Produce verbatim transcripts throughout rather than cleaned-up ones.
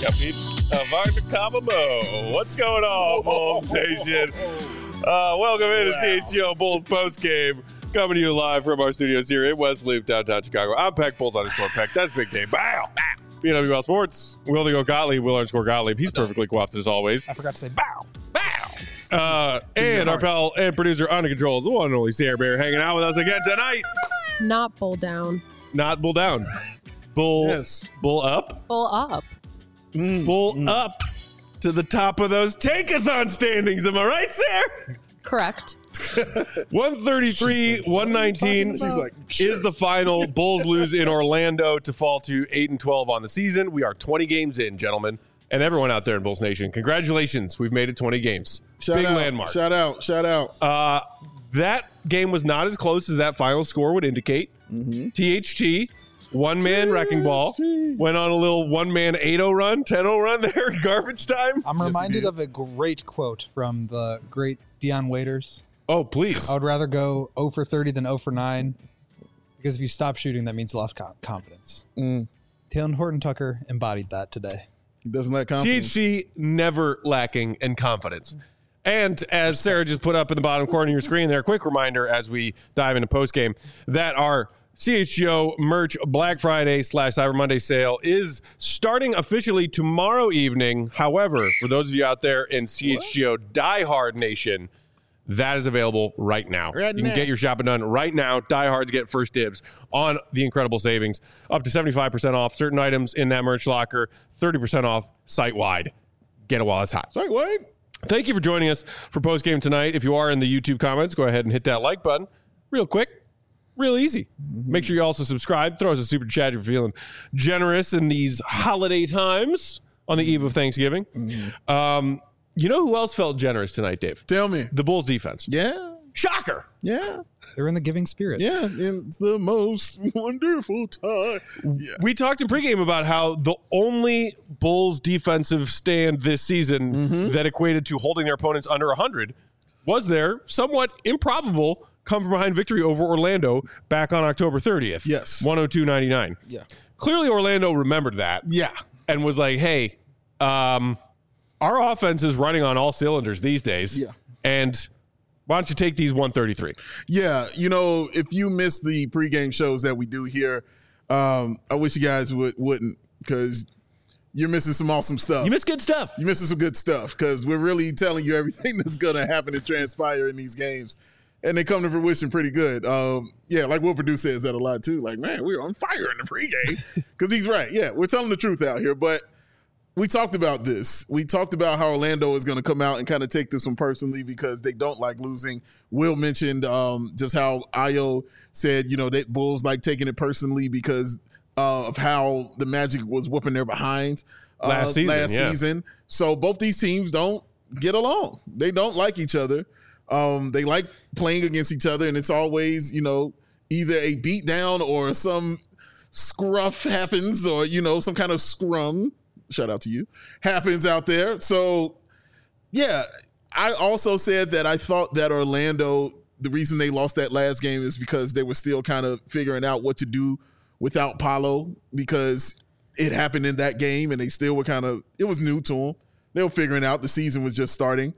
up, peeps? Uh, Varda Kamamo. What's going on, Bulls Nation? Uh, welcome into Wow. C H G O Bulls postgame. Coming to you live from our studios here in West Loop, downtown Chicago. I'm Peck, Bulls underscore Peck. That's Big Dave. Bow! B N W L Sports. Will to go Gottlieb. Will underscore Gottlieb. He's perfectly coiffed as always. I forgot to say bow. Bow! Uh, and our pal and producer on the controls, the one and only Sarah Bear, hanging out with us again tonight. Not bull down. Not bull down. Bull, Yes. bull up. Bull up. Mm, Bull mm. up to the top of those tankathon standings. Am I right, Sarah? Correct. one thirty-three, one nineteen She's like, is the final. Bulls lose in Orlando to fall to eight and twelve on the season. We are twenty games in, gentlemen, and everyone out there in Bulls Nation. Congratulations, we've made it twenty games. Shout Big out, landmark. Shout out. Shout out. Uh, that game was not as close as that final score would indicate. Mm-hmm. T H T, one man wrecking ball, went on a little one man eight oh run, ten oh run there, garbage time. I'm Yes, reminded it of a great quote from the great Deion Waiters. Oh, please. I would rather go zero for thirty than zero for nine because if you stop shooting, that means lost co- confidence. Mm. Taylor Horton Tucker embodied that today. Doesn't that T confidence? H C never lacking in confidence. And as Sarah just put up in the bottom corner of your screen there, quick reminder as we dive into postgame that our C H G O merch Black Friday slash Cyber Monday sale is starting officially tomorrow evening. However, for those of you out there in C H G O diehard nation, that is available right now. Right you can now. get your shopping done right now. Diehards get first dibs on the incredible savings. Up to seventy-five percent off certain items in that merch locker, thirty percent off site-wide. Get it while it's hot. Sorry, what? Thank you for joining us for postgame tonight. If you are in the YouTube comments, go ahead and hit that like button. Real quick, real easy. Make sure you also subscribe. Throw us a super chat if you're feeling generous in these holiday times on the eve of Thanksgiving. Um, you know who else felt generous tonight, Dave? Tell me. The Bulls defense. Yeah. Shocker. Yeah. They're in the giving spirit. Yeah. It's the most wonderful time. Yeah. We talked in pregame about how the only Bulls defensive stand this season that equated to holding their opponents under one hundred was their somewhat improbable come from behind victory over Orlando back on October thirtieth. Yes. one oh two ninety-nine. Yeah. Clearly Orlando remembered that Yeah. and was like, hey, um, our offense is running on all cylinders these days. Yeah. And why don't you take these one thirty-three? Yeah, you know, if you miss the pregame shows that we do here, um, I wish you guys would, wouldn't because you're missing some awesome stuff. You missed good stuff. You're missing some good stuff because we're really telling you everything that's going to happen and transpire in these games. And they come to fruition pretty good. Um, yeah, like Will Purdue says that a lot too. Like, man, we're on fire in the pregame because he's right. Yeah, we're telling the truth out here. But we talked about this. We talked about how Orlando is going to come out and kind of take this one personally because they don't like losing. Will mentioned um, just how Ayo said, you know, that Bulls like taking it personally because uh, of how the Magic was whooping their behind uh, Last season, Last yeah. season. So both these teams don't get along. They don't like each other. Um, they like playing against each other, and it's always, you know, either a beat down or some scruff happens or, you know, some kind of scrum. Shout out to you. Happens out there. So, yeah, I also said that I thought that Orlando, the reason they lost that last game is because they were still kind of figuring out what to do without Paolo because it happened in that game and they still were kind of, it was new to them. They were figuring out the season was just starting.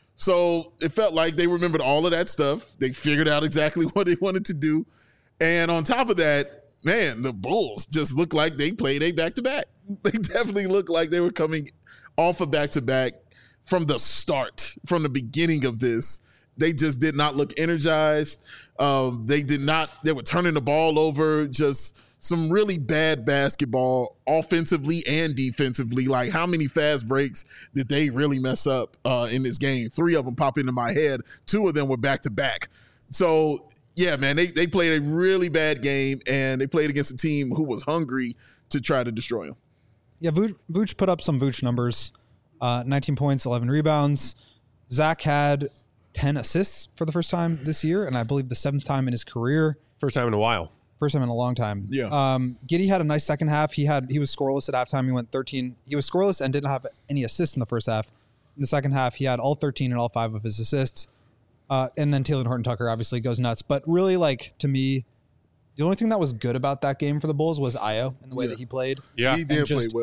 So it felt like they remembered all of that stuff. They figured out exactly what they wanted to do. And on top of that, man, the Bulls just looked like they played a back-to-back. They definitely looked like they were coming off a back-to-back from the start, from the beginning of this. They just did not look energized. Um, they did not, they were turning the ball over, just some really bad basketball offensively and defensively. Like how many fast breaks did they really mess up uh, in this game? Three of them pop into my head. Two of them were back-to-back. So, yeah, man, they, they played a really bad game, and they played against a team who was hungry to try to destroy them. Yeah, Vooch, Vooch put up some Vooch numbers. Uh, nineteen points, eleven rebounds. Zach had ten assists for the first time this year, and I believe the seventh time in his career. First time in a while. First time in a long time. Yeah. Um, Giddey had a nice second half. He had he was scoreless at halftime. He went thirteen. He was scoreless and didn't have any assists in the first half. In the second half, he had all thirteen and all five of his assists. Uh, and then Taylor Horton Tucker obviously goes nuts. But really, like, to me, the only thing that was good about that game for the Bulls was Ayo and the way Yeah. that he played. Yeah. He did And play just- well.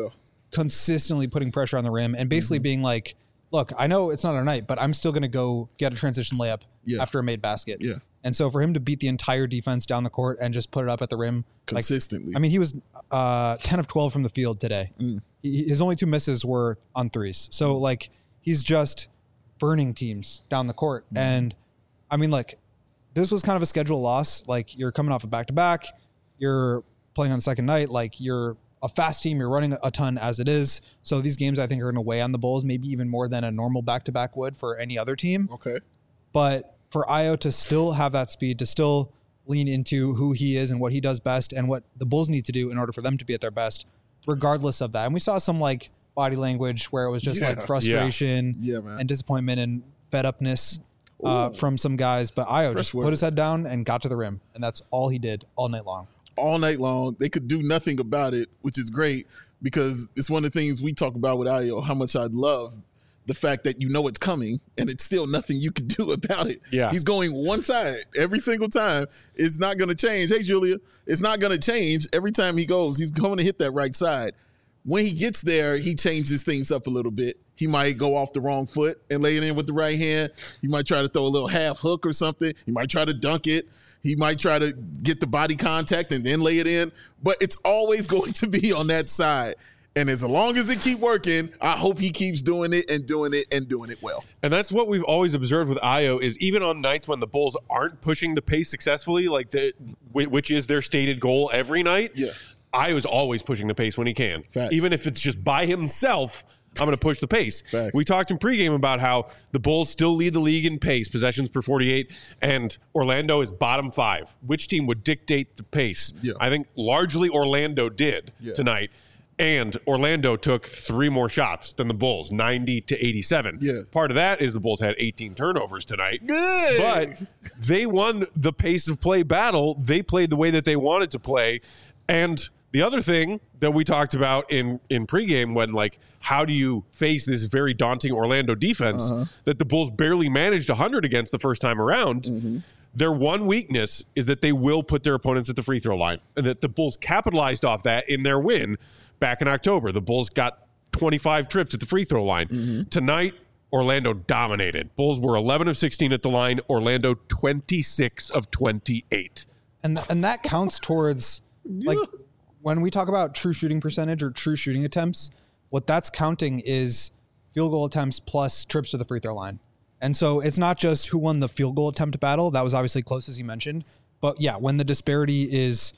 consistently putting pressure on the rim and basically mm-hmm. being like, look, I know it's not our night, but I'm still going to go get a transition layup yeah. after a made basket. Yeah. And so for him to beat the entire defense down the court and just put it up at the rim consistently. Like, I mean, he was uh, ten of twelve from the field today. Mm. He, his only two misses were on threes. So like he's just burning teams down the court. Mm. And I mean, like this was kind of a schedule loss. Like you're coming off a back to back, you're playing on the second night. Like you're a fast team. You're running a ton as it is. So these games I think are going to weigh on the Bulls, maybe even more than a normal back to back would for any other team. Okay. But for Ayo to still have that speed, to still lean into who he is and what he does best and what the Bulls need to do in order for them to be at their best, regardless of that. And we saw some like body language where it was just yeah. like frustration yeah. Yeah, man. and disappointment and fed upness uh, from some guys. But Ayo Fresh just word. put his head down and got to the rim. And that's all he did all night long. All night long. They could do nothing about it, which is great because it's one of the things we talk about with Ayo, how much I love the fact that you know it's coming and it's still nothing you can do about it. Yeah. He's going one side every single time. It's not going to change. Hey, Julia, it's not going to change. Every time he goes, he's going to hit that right side. When he gets there, he changes things up a little bit. He might go off the wrong foot and lay it in with the right hand. He might try to throw a little half hook or something. He might try to dunk it. He might try to get the body contact and then lay it in. But it's always going to be on that side. And as long as it keep working, I hope he keeps doing it and doing it and doing it well. And that's what we've always observed with Ayo is even on nights when the Bulls aren't pushing the pace successfully, like the which is their stated goal every night. Yeah, Ayo is always pushing the pace when he can. Facts. Even if it's just by himself, I'm going to push the pace. Facts. We talked in pregame about how the Bulls still lead the league in pace, possessions per forty-eight, and Orlando is bottom five. Which team would dictate the pace? Yeah. I think largely Orlando did yeah. tonight. And Orlando took three more shots than the Bulls, ninety to eighty-seven. Yeah. Part of that is the Bulls had eighteen turnovers tonight. Good. But they won the pace of play battle. They played the way that they wanted to play. And the other thing that we talked about in, in pregame when, like, how do you face this very daunting Orlando defense uh-huh. that the Bulls barely managed one hundred against the first time around, mm-hmm. their one weakness is that they will put their opponents at the free throw line. And that the Bulls capitalized off that in their win back in October. The Bulls got twenty-five trips at the free throw line. Mm-hmm. Tonight, Orlando dominated. Bulls were eleven of sixteen at the line. Orlando twenty-six of twenty-eight. And th- and that counts towards, like, when we talk about true shooting percentage or true shooting attempts, what that's counting is field goal attempts plus trips to the free throw line. And so it's not just who won the field goal attempt battle. That was obviously close, as you mentioned. But yeah, when the disparity is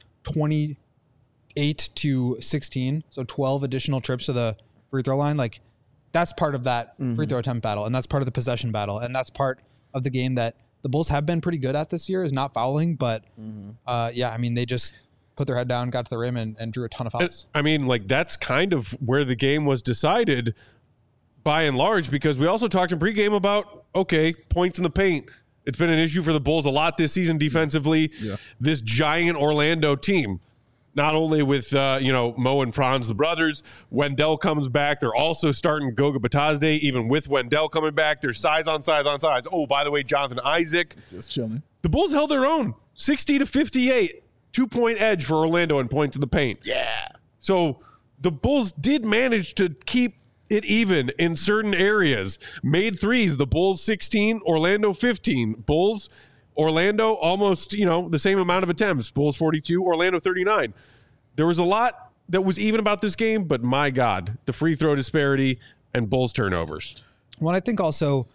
twenty-eight to sixteen, so twelve additional trips to the free throw line, like that's part of that mm-hmm. free throw attempt battle. And that's part of the possession battle. And that's part of the game that the Bulls have been pretty good at this year, is not fouling. But mm-hmm. uh, yeah, I mean, they just put their head down, got to the rim, and, and drew a ton of fouls. I mean, like, that's kind of where the game was decided by and large, because we also talked in pregame about, okay, points in the paint. It's been an issue for the Bulls a lot this season defensively. Yeah. This giant Orlando team, not only with, uh, you know, Mo and Franz, the brothers, Wendell comes back. They're also starting Goga Batazde, even with Wendell coming back. There's size on size on size. Oh, by the way, Jonathan Isaac. Just chilling. The Bulls held their own, sixty to fifty-eight. Two-point edge for Orlando and points in the paint. Yeah. So the Bulls did manage to keep it even in certain areas. Made threes. The Bulls sixteen, Orlando fifteen. Bulls, Orlando almost, you know, the same amount of attempts. Bulls forty-two, Orlando thirty-nine. There was a lot that was even about this game, but my God, the free throw disparity and Bulls turnovers. Well, I think also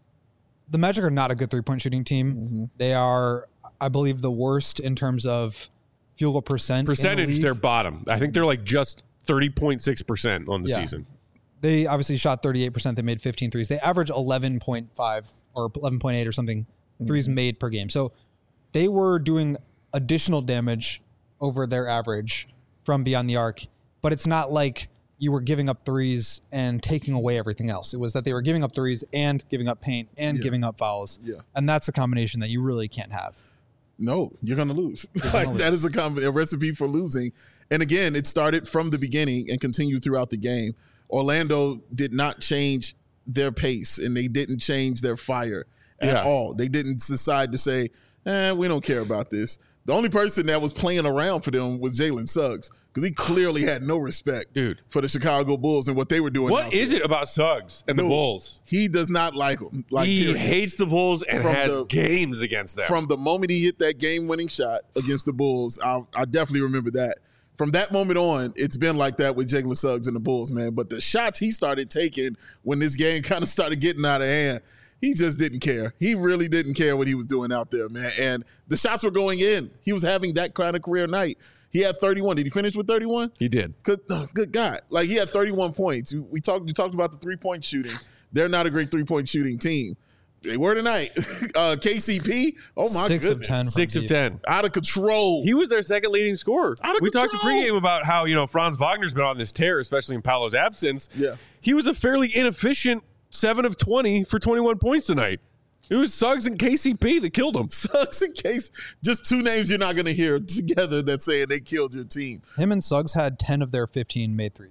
the Magic are not a good three-point shooting team. Mm-hmm. They are, I believe, the worst in terms of field goal percent. Percentage, the they're bottom. I think they're like just thirty point six percent on the yeah. season. They obviously shot thirty-eight percent. They made fifteen threes. They average eleven point five or eleven point eight or something mm-hmm. threes made per game. So they were doing additional damage over their average from beyond the arc. But it's not like you were giving up threes and taking away everything else. It was that they were giving up threes and giving up paint and yeah. giving up fouls. Yeah. And that's a combination that you really can't have. No, you're going to lose. Gonna like lose. That is a, com- a recipe for losing. And again, it started from the beginning and continued throughout the game. Orlando did not change their pace and they didn't change their fire at yeah. all. They didn't decide to say, eh, we don't care about this. The only person that was playing around for them was Jalen Suggs because he clearly had no respect, Dude. for the Chicago Bulls and what they were doing. What out is there. it about Suggs and the Dude, Bulls? He does not like them. Like He period. hates the Bulls and From has the- games against them. From the moment he hit that game-winning shot against the Bulls, I, I definitely remember that. From that moment on, it's been like that with Jalen Suggs and the Bulls, man. But the shots he started taking when this game kind of started getting out of hand, he just didn't care. He really didn't care what he was doing out there, man. And the shots were going in. He was having that kind of career night. He had thirty-one. Did he finish with thirty-one? he did. Good, oh, good God! Like he had thirty-one points. We talked. We talked about the three-point shooting. They're not a great three-point shooting team. They were tonight. uh, K C P. Oh my Six goodness! of ten. Six from of deep. ten. Out of control. He was their second leading scorer. Out of we talked to control. pregame about how, you know, Franz Wagner's been on this tear, especially in Paolo's absence. Yeah. He was a fairly inefficient seven of twenty for twenty-one points tonight. It was Suggs and K C P that killed him. Suggs and Case. Just two names you're not going to hear together that saying they killed your team. Him and Suggs had ten of their fifteen made threes.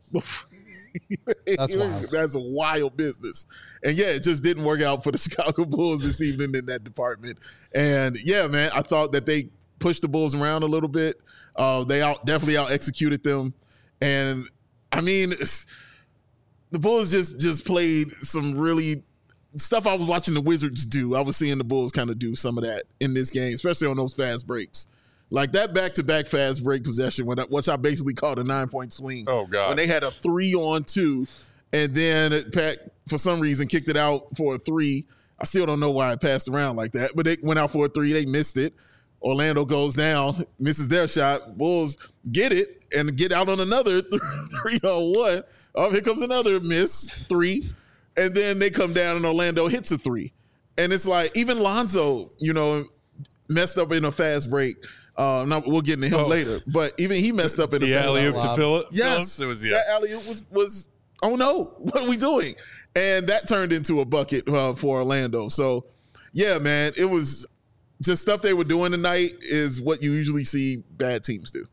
That's wild. That's a wild business. And yeah, it just didn't work out for the Chicago Bulls this evening in that department. And yeah, man, I thought that they pushed the Bulls around a little bit. Uh, they out definitely out executed them. And I mean, it's, the Bulls just just played some really stuff I was watching the Wizards do. I was seeing the Bulls kind of do some of that in this game, especially on those fast breaks. Like that back-to-back fast break possession, when I, which I basically called a nine-point swing. Oh, God. When they had a three on two, and then Pat, for some reason, kicked it out for a three. I still don't know why it passed around like that, but they went out for a three. They missed it. Orlando goes down, misses their shot. Bulls get it and get out on another three on one. Oh, here comes another miss, three. And then they come down and Orlando hits a three. And it's like, even Lonzo, you know, messed up in a fast break. Uh, now we'll get into him Oh. later, but even he messed up in a The fast alley-oop break. to fill it. Yes, It was, yeah. that alley was was. Oh no, what are we doing? And that turned into a bucket uh, for Orlando. So, yeah, man, it was just stuff they were doing tonight is what you usually see bad teams do.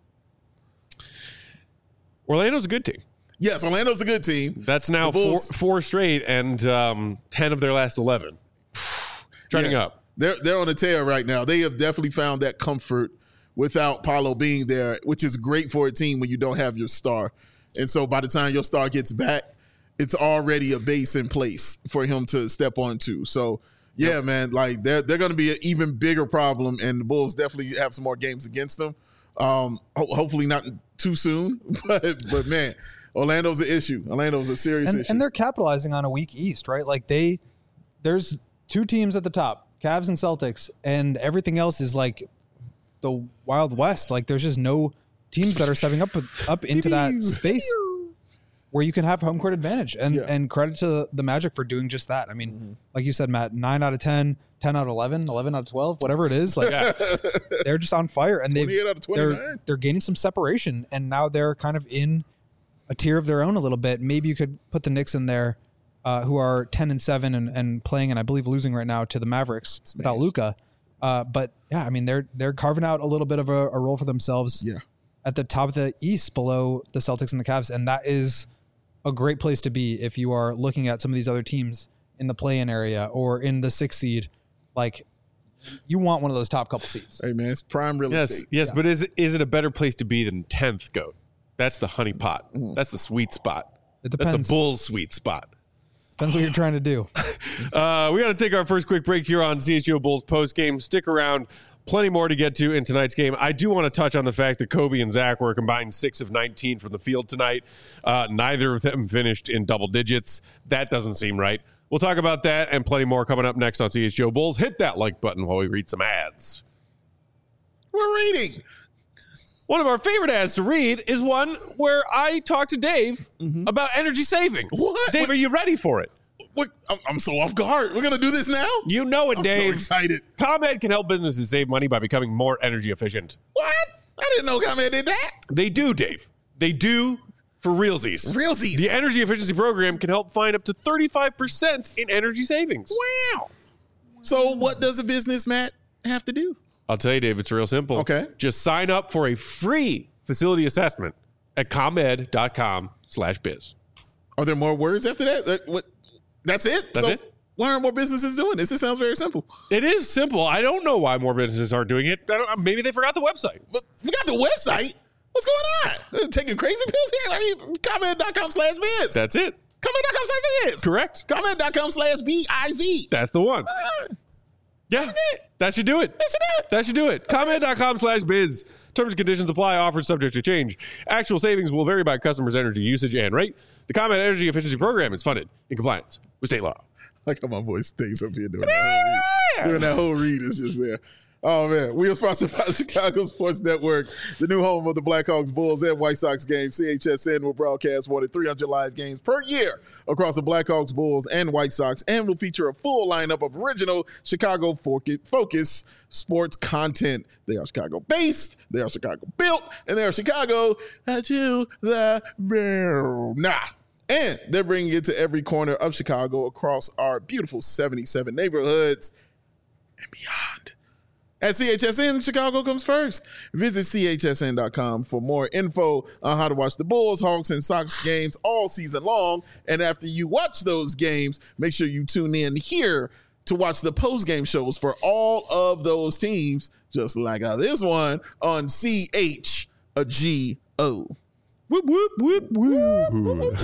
Orlando's a good team. Yes, Orlando's a good team. That's now The four, Bulls- four straight and um, ten of their last eleven. Trending Yeah. up. They're they're on a tear right now. They have definitely found that comfort without Paolo being there, which is great for a team when you don't have your star. And so by the time your star gets back, it's already a base in place for him to step onto. So yeah, yep. man, like they're they're going to be an even bigger problem, and the Bulls definitely have some more games against them. Um, ho- hopefully not too soon, but but man, Orlando's an issue. Orlando's a serious and, issue, and they're capitalizing on a weak East, right? Like they, there's two teams at the top, Cavs and Celtics, and everything else is like the Wild West. Like there's just no teams that are stepping up up into that space where you can have home court advantage. And Yeah. and credit to the, the Magic for doing just that. I mean, mm-hmm. like you said, Matt, nine out of ten, ten out of eleven, eleven out of twelve, whatever it is, like Yeah. they're just on fire, and they've twenty-eight out of they're twenty-nine. they're gaining some separation, and now they're kind of in a tier of their own a little bit. Maybe you could put the Knicks in there, uh, who are ten and seven and, and playing, and I believe losing right now to the Mavericks Smash. without Luka. Uh, but yeah, I mean they're they're carving out a little bit of a, a role for themselves. Yeah. At the top of the East, below the Celtics and the Cavs, and that is a great place to be if you are looking at some of these other teams in the play-in area or in the sixth seed. Like, you want one of those top couple seats. Hey man, it's prime real Yes, estate. yes, Yeah. but is it, is it a better place to be than tenth goat? That's the honey pot. Mm. That's the sweet spot. It That's depends. the Bulls' sweet spot. Depends what you're trying to do. Uh, we got to take our first quick break here on C H G O Bulls post game. Stick around. Plenty more to get to in tonight's game. I do want to touch on the fact that Kobe and Zach were combined six of nineteen from the field tonight. Uh, neither of them finished in double digits. That doesn't seem right. We'll talk about that and plenty more coming up next on C H G O Bulls. Hit that like button while we read some ads. We're reading. One of our favorite ads to read is one where I talk to Dave Mm-hmm. about energy savings. What? Dave, What- are you ready for it? What? I'm, I'm so off guard. We're gonna do this now. You know it, I'm Dave. so excited. ComEd can help businesses save money by becoming more energy efficient. What? I didn't know ComEd did that. They do, Dave. They do for realsies. Realsies. The energy efficiency program can help find up to thirty-five percent in energy savings. Wow. So what does a business, Matt, have to do? I'll tell you, Dave, it's real simple. Okay. Just sign up for a free facility assessment at ComEd dot com slash biz. Are there more words after that? That- What? That's it. That's So it. Why aren't more businesses doing this? It sounds very simple. It is simple. I don't know why more businesses aren't doing it. I don't, maybe they forgot the website. But we got the website. What's going on? They're taking crazy pills here? I mean, comment.com slash biz. That's it. Comment.com slash biz. Correct. Comment.com slash B I Z. That's the one. Yeah, that should do it. That should do it. That should do it. Comment.com slash biz. Terms and conditions apply. Offers subject to change. Actual savings will vary by customer's energy usage and rate. The Comment Energy Efficiency Program is funded in compliance with state law. Like how my boy stays up here doing that whole read. Doing that whole read is just there. Oh, man. We are sponsored by the Chicago Sports Network, the new home of the Blackhawks, Bulls, and White Sox games. C H S N will broadcast more than three hundred live games per year across the Blackhawks, Bulls, and White Sox, and will feature a full lineup of original Chicago focused sports content. They are Chicago-based, they are Chicago-built, and they are Chicago to the bone. Nah. And they're bringing it to every corner of Chicago across our beautiful seventy-seven neighborhoods and beyond. At C H S N, Chicago comes first. Visit C H S N dot com for more info on how to watch the Bulls, Hawks, and Sox games all season long. And after you watch those games, make sure you tune in here to watch the post-game shows for all of those teams, just like how this one on C H G O. Whoop, whoop, whoop, whoop.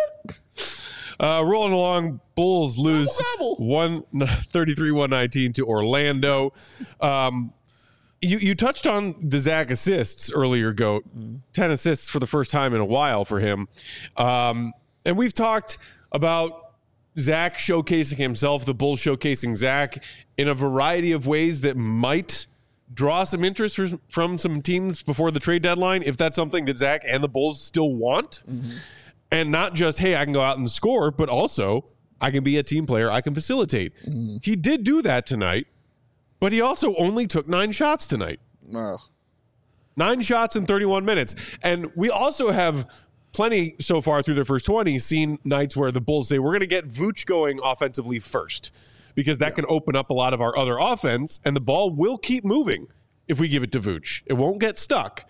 Uh, rolling along, Bulls lose one thirty-three one nineteen to Orlando. Um, you you touched on the Zach assists earlier, Goat. ten assists for the first time in a while for him. Um, and we've talked about Zach showcasing himself, the Bulls showcasing Zach in a variety of ways that might draw some interest for, from some teams before the trade deadline, if that's something that Zach and the Bulls still want. Mm-hmm. And not just, hey, I can go out and score, but also I can be a team player. I can facilitate. Mm. He did do that tonight, but he also only took nine shots tonight. Wow. Nine shots in thirty-one minutes. And we also have plenty so far through their first twenty seen nights where the Bulls say, we're going to get Vooch going offensively first, because that yeah. can open up a lot of our other offense, and the ball will keep moving if we give it to Vooch. It won't get stuck.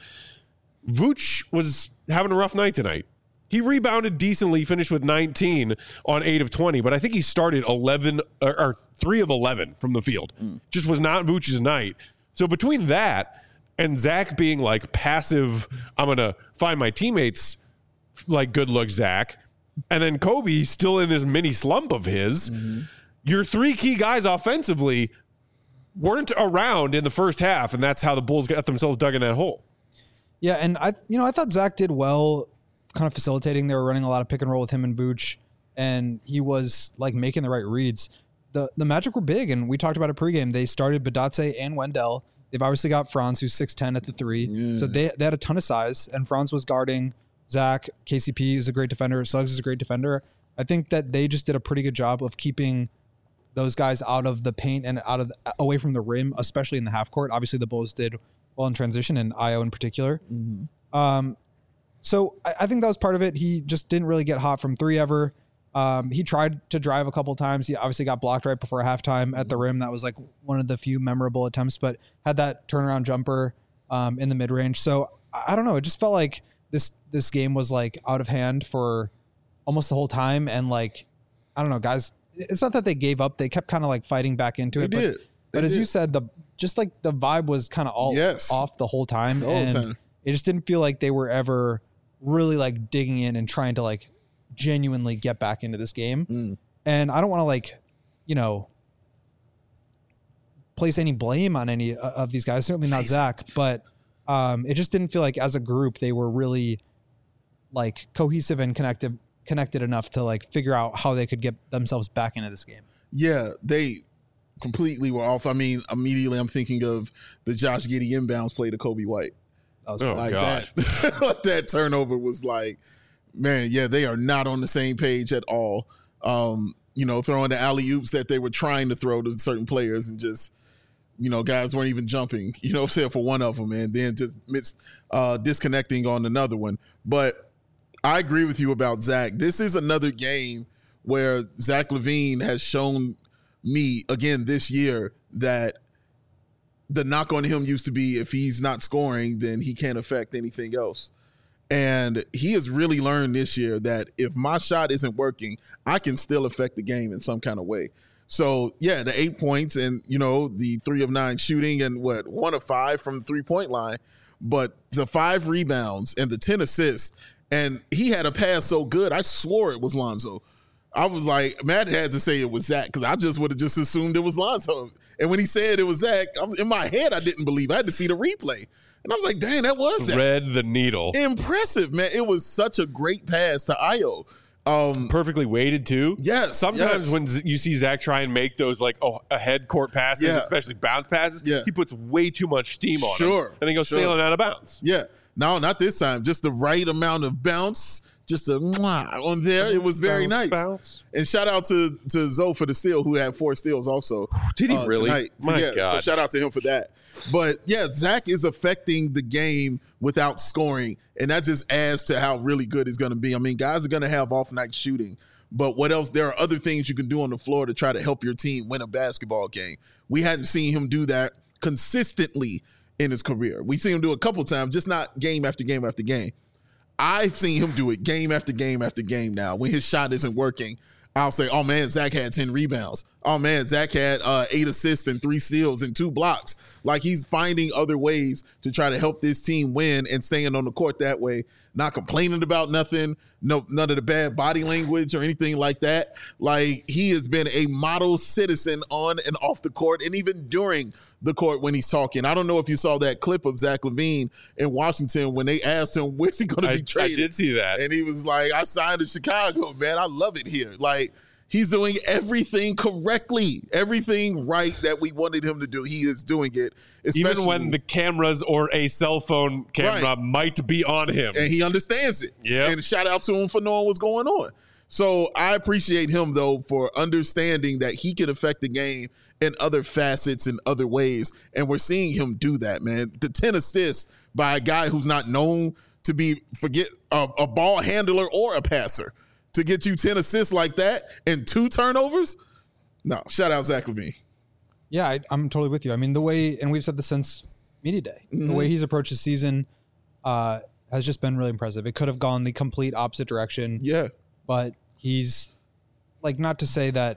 Vooch was having a rough night tonight. He rebounded decently, finished with nineteen on eight of twenty, but I think he started eleven or, or three of eleven from the field. Mm. Just was not Vooch's night. So between that and Zach being like passive, I'm going to find my teammates like good look Zach, and then Kobe still in this mini slump of his, mm-hmm. your three key guys offensively weren't around in the first half, and that's how the Bulls got themselves dug in that hole. Yeah, and I you know I thought Zach did well kind of facilitating. They were running a lot of pick and roll with him and Vooch, and he was like making the right reads. The the Magic were big, and we talked about it pregame. They started Badatse and Wendell. They've obviously got Franz, who's six ten at the three. Yeah. So they, they had a ton of size, and Franz was guarding Zach. K C P is a great defender. Suggs is a great defender. I think that they just did a pretty good job of keeping those guys out of the paint and out of the, away from the rim, especially in the half court. Obviously, the Bulls did well in transition, and Io in particular. Mm-hmm. Um, So I, I think that was part of it. He just didn't really get hot from three ever. Um, he tried to drive a couple times. He obviously got blocked right before halftime at the rim. That was like one of the few memorable attempts, but had that turnaround jumper um, in the mid range. So I, I don't know. It just felt like this this game was like out of hand for almost the whole time. And like, I don't know, guys. It's not that they gave up. They kept kind of like fighting back into they it. Did. But, but they as did. you said, the just like the vibe was kind of all yes. off the whole time. The whole and time. It just didn't feel like they were ever really like digging in and trying to like genuinely get back into this game. Mm. And I don't want to like, you know, place any blame on any of these guys. Certainly not Zach, but um, it just didn't feel like as a group, they were really like cohesive and connected, connected enough to like figure out how they could get themselves back into this game. Yeah. They completely were off. I mean, immediately I'm thinking of the Josh Giddey inbounds play to Kobe White. That was oh, like God. that. That turnover was like, man, yeah, they are not on the same page at all. Um, you know, throwing the alley-oops that they were trying to throw to certain players and just, you know, guys weren't even jumping, you know, except for one of them, and then just missed, uh, disconnecting on another one. But I agree with you about Zach. This is another game where Zach LaVine has shown me, again, this year that the knock on him used to be if he's not scoring, then he can't affect anything else. And he has really learned this year that if my shot isn't working, I can still affect the game in some kind of way. So, yeah, the eight points and, you know, the three of nine shooting and what, one of five from the three-point line. But the five rebounds and the ten assists, and he had a pass so good, I swore it was Lonzo. I was like, Matt had to say it was Zach because I just would have just assumed it was Lonzo. And when he said it was Zach, I was, in my head, I didn't believe. I had to see the replay. And I was like, dang, that was Zach. Read the needle. Impressive, man. It was such a great pass to Ayo. Um, Perfectly weighted too. Yes. Sometimes yes. when Z- you see Zach try and make those like oh ahead court passes, Yeah. especially bounce passes, Yeah. he puts way too much steam on Sure. him, and then goes Sure. sailing out of bounds. Yeah. No, not this time. Just the right amount of bounce. Just a mwah on there. It was very Bounce, nice. bounce. And shout out to to Zoe for the steal, who had four steals also. Did he uh, really? Tonight. So, My yeah, God. So shout out to him for that. But yeah, Zach is affecting the game without scoring, and that just adds to how really good he's going to be. I mean, guys are going to have off night shooting, but what else? There are other things you can do on the floor to try to help your team win a basketball game. We hadn't seen him do that consistently in his career. We've seen him do it a couple times, just not game after game after game. I've seen him do it game after game after game now. When his shot isn't working, I'll say, oh, man, Zach had ten rebounds. Oh, man, Zach had uh, eight assists and three steals and two blocks. Like, he's finding other ways to try to help this team win and staying on the court that way, not complaining about nothing, no, none of the bad body language or anything like that. Like, he has been a model citizen on and off the court and even during the court when he's talking. I don't know if you saw that clip of Zach LaVine in Washington when they asked him, where's he going to I, be traded? I did see that. And he was like, I signed in Chicago, man. I love it here. Like, he's doing everything correctly, everything right that we wanted him to do. He is doing it. Even when the cameras or a cell phone camera Right. might be on him. and he understands it. Yep. And shout out to him for knowing what's going on. So I appreciate him, though, for understanding that he can affect the game in other facets and other ways. And we're seeing him do that, man. The ten assists by a guy who's not known to be, forget, a, a ball handler or a passer. To get you ten assists like that and two turnovers? No, shout out Zach LaVine. Yeah, I, I'm totally with you. I mean, the way, and we've said this since media day, Mm-hmm. the way he's approached the season uh, has just been really impressive. It could have gone the complete opposite direction, Yeah. but he's like, not to say that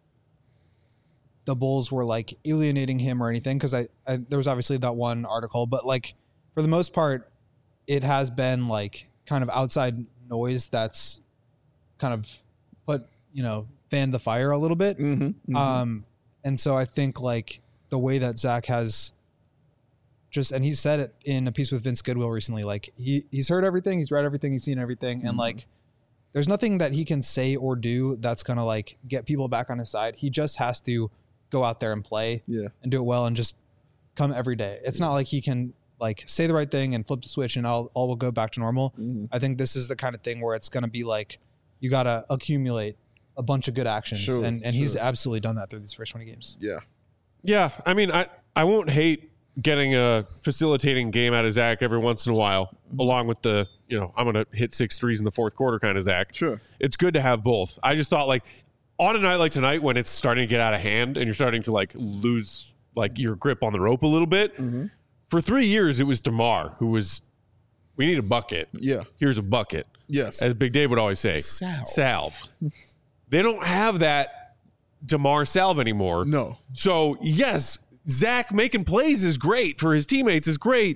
the Bulls were like alienating him or anything, because I, I there was obviously that one article, but like for the most part, it has been like kind of outside noise that's kind of put, you know, fanned the fire a little bit. Mm-hmm. Mm-hmm. Um, and so I think like the way that Zach has just, and he said it in a piece with Vince Goodwill recently, like he he's heard everything, he's read everything, he's seen everything. And Mm-hmm. like, there's nothing that he can say or do that's going to like get people back on his side. He just has to go out there and play Yeah. and do it well and just come every day. It's not like he can like say the right thing and flip the switch and all, all will go back to normal. Mm-hmm. I think this is the kind of thing where it's going to be like, you got to accumulate a bunch of good actions. Sure, and and he's sure. absolutely done that through these first twenty games. Yeah. Yeah, I mean, I, I won't hate getting a facilitating game out of Zach every once in a while, Mm-hmm. along with the, you know, I'm going to hit six threes in the fourth quarter kind of Zach. Sure. It's good to have both. I just thought, like, on a night like tonight when it's starting to get out of hand and you're starting to, like, lose, like, your grip on the rope a little bit, Mm-hmm. for three years it was DeMar who was, we need a bucket. Yeah. Here's a bucket. Yes. As Big Dave would always say. Salve. Salve. They don't have that DeMar salve anymore. No. So, yes, Zach making plays is great for his teammates is great.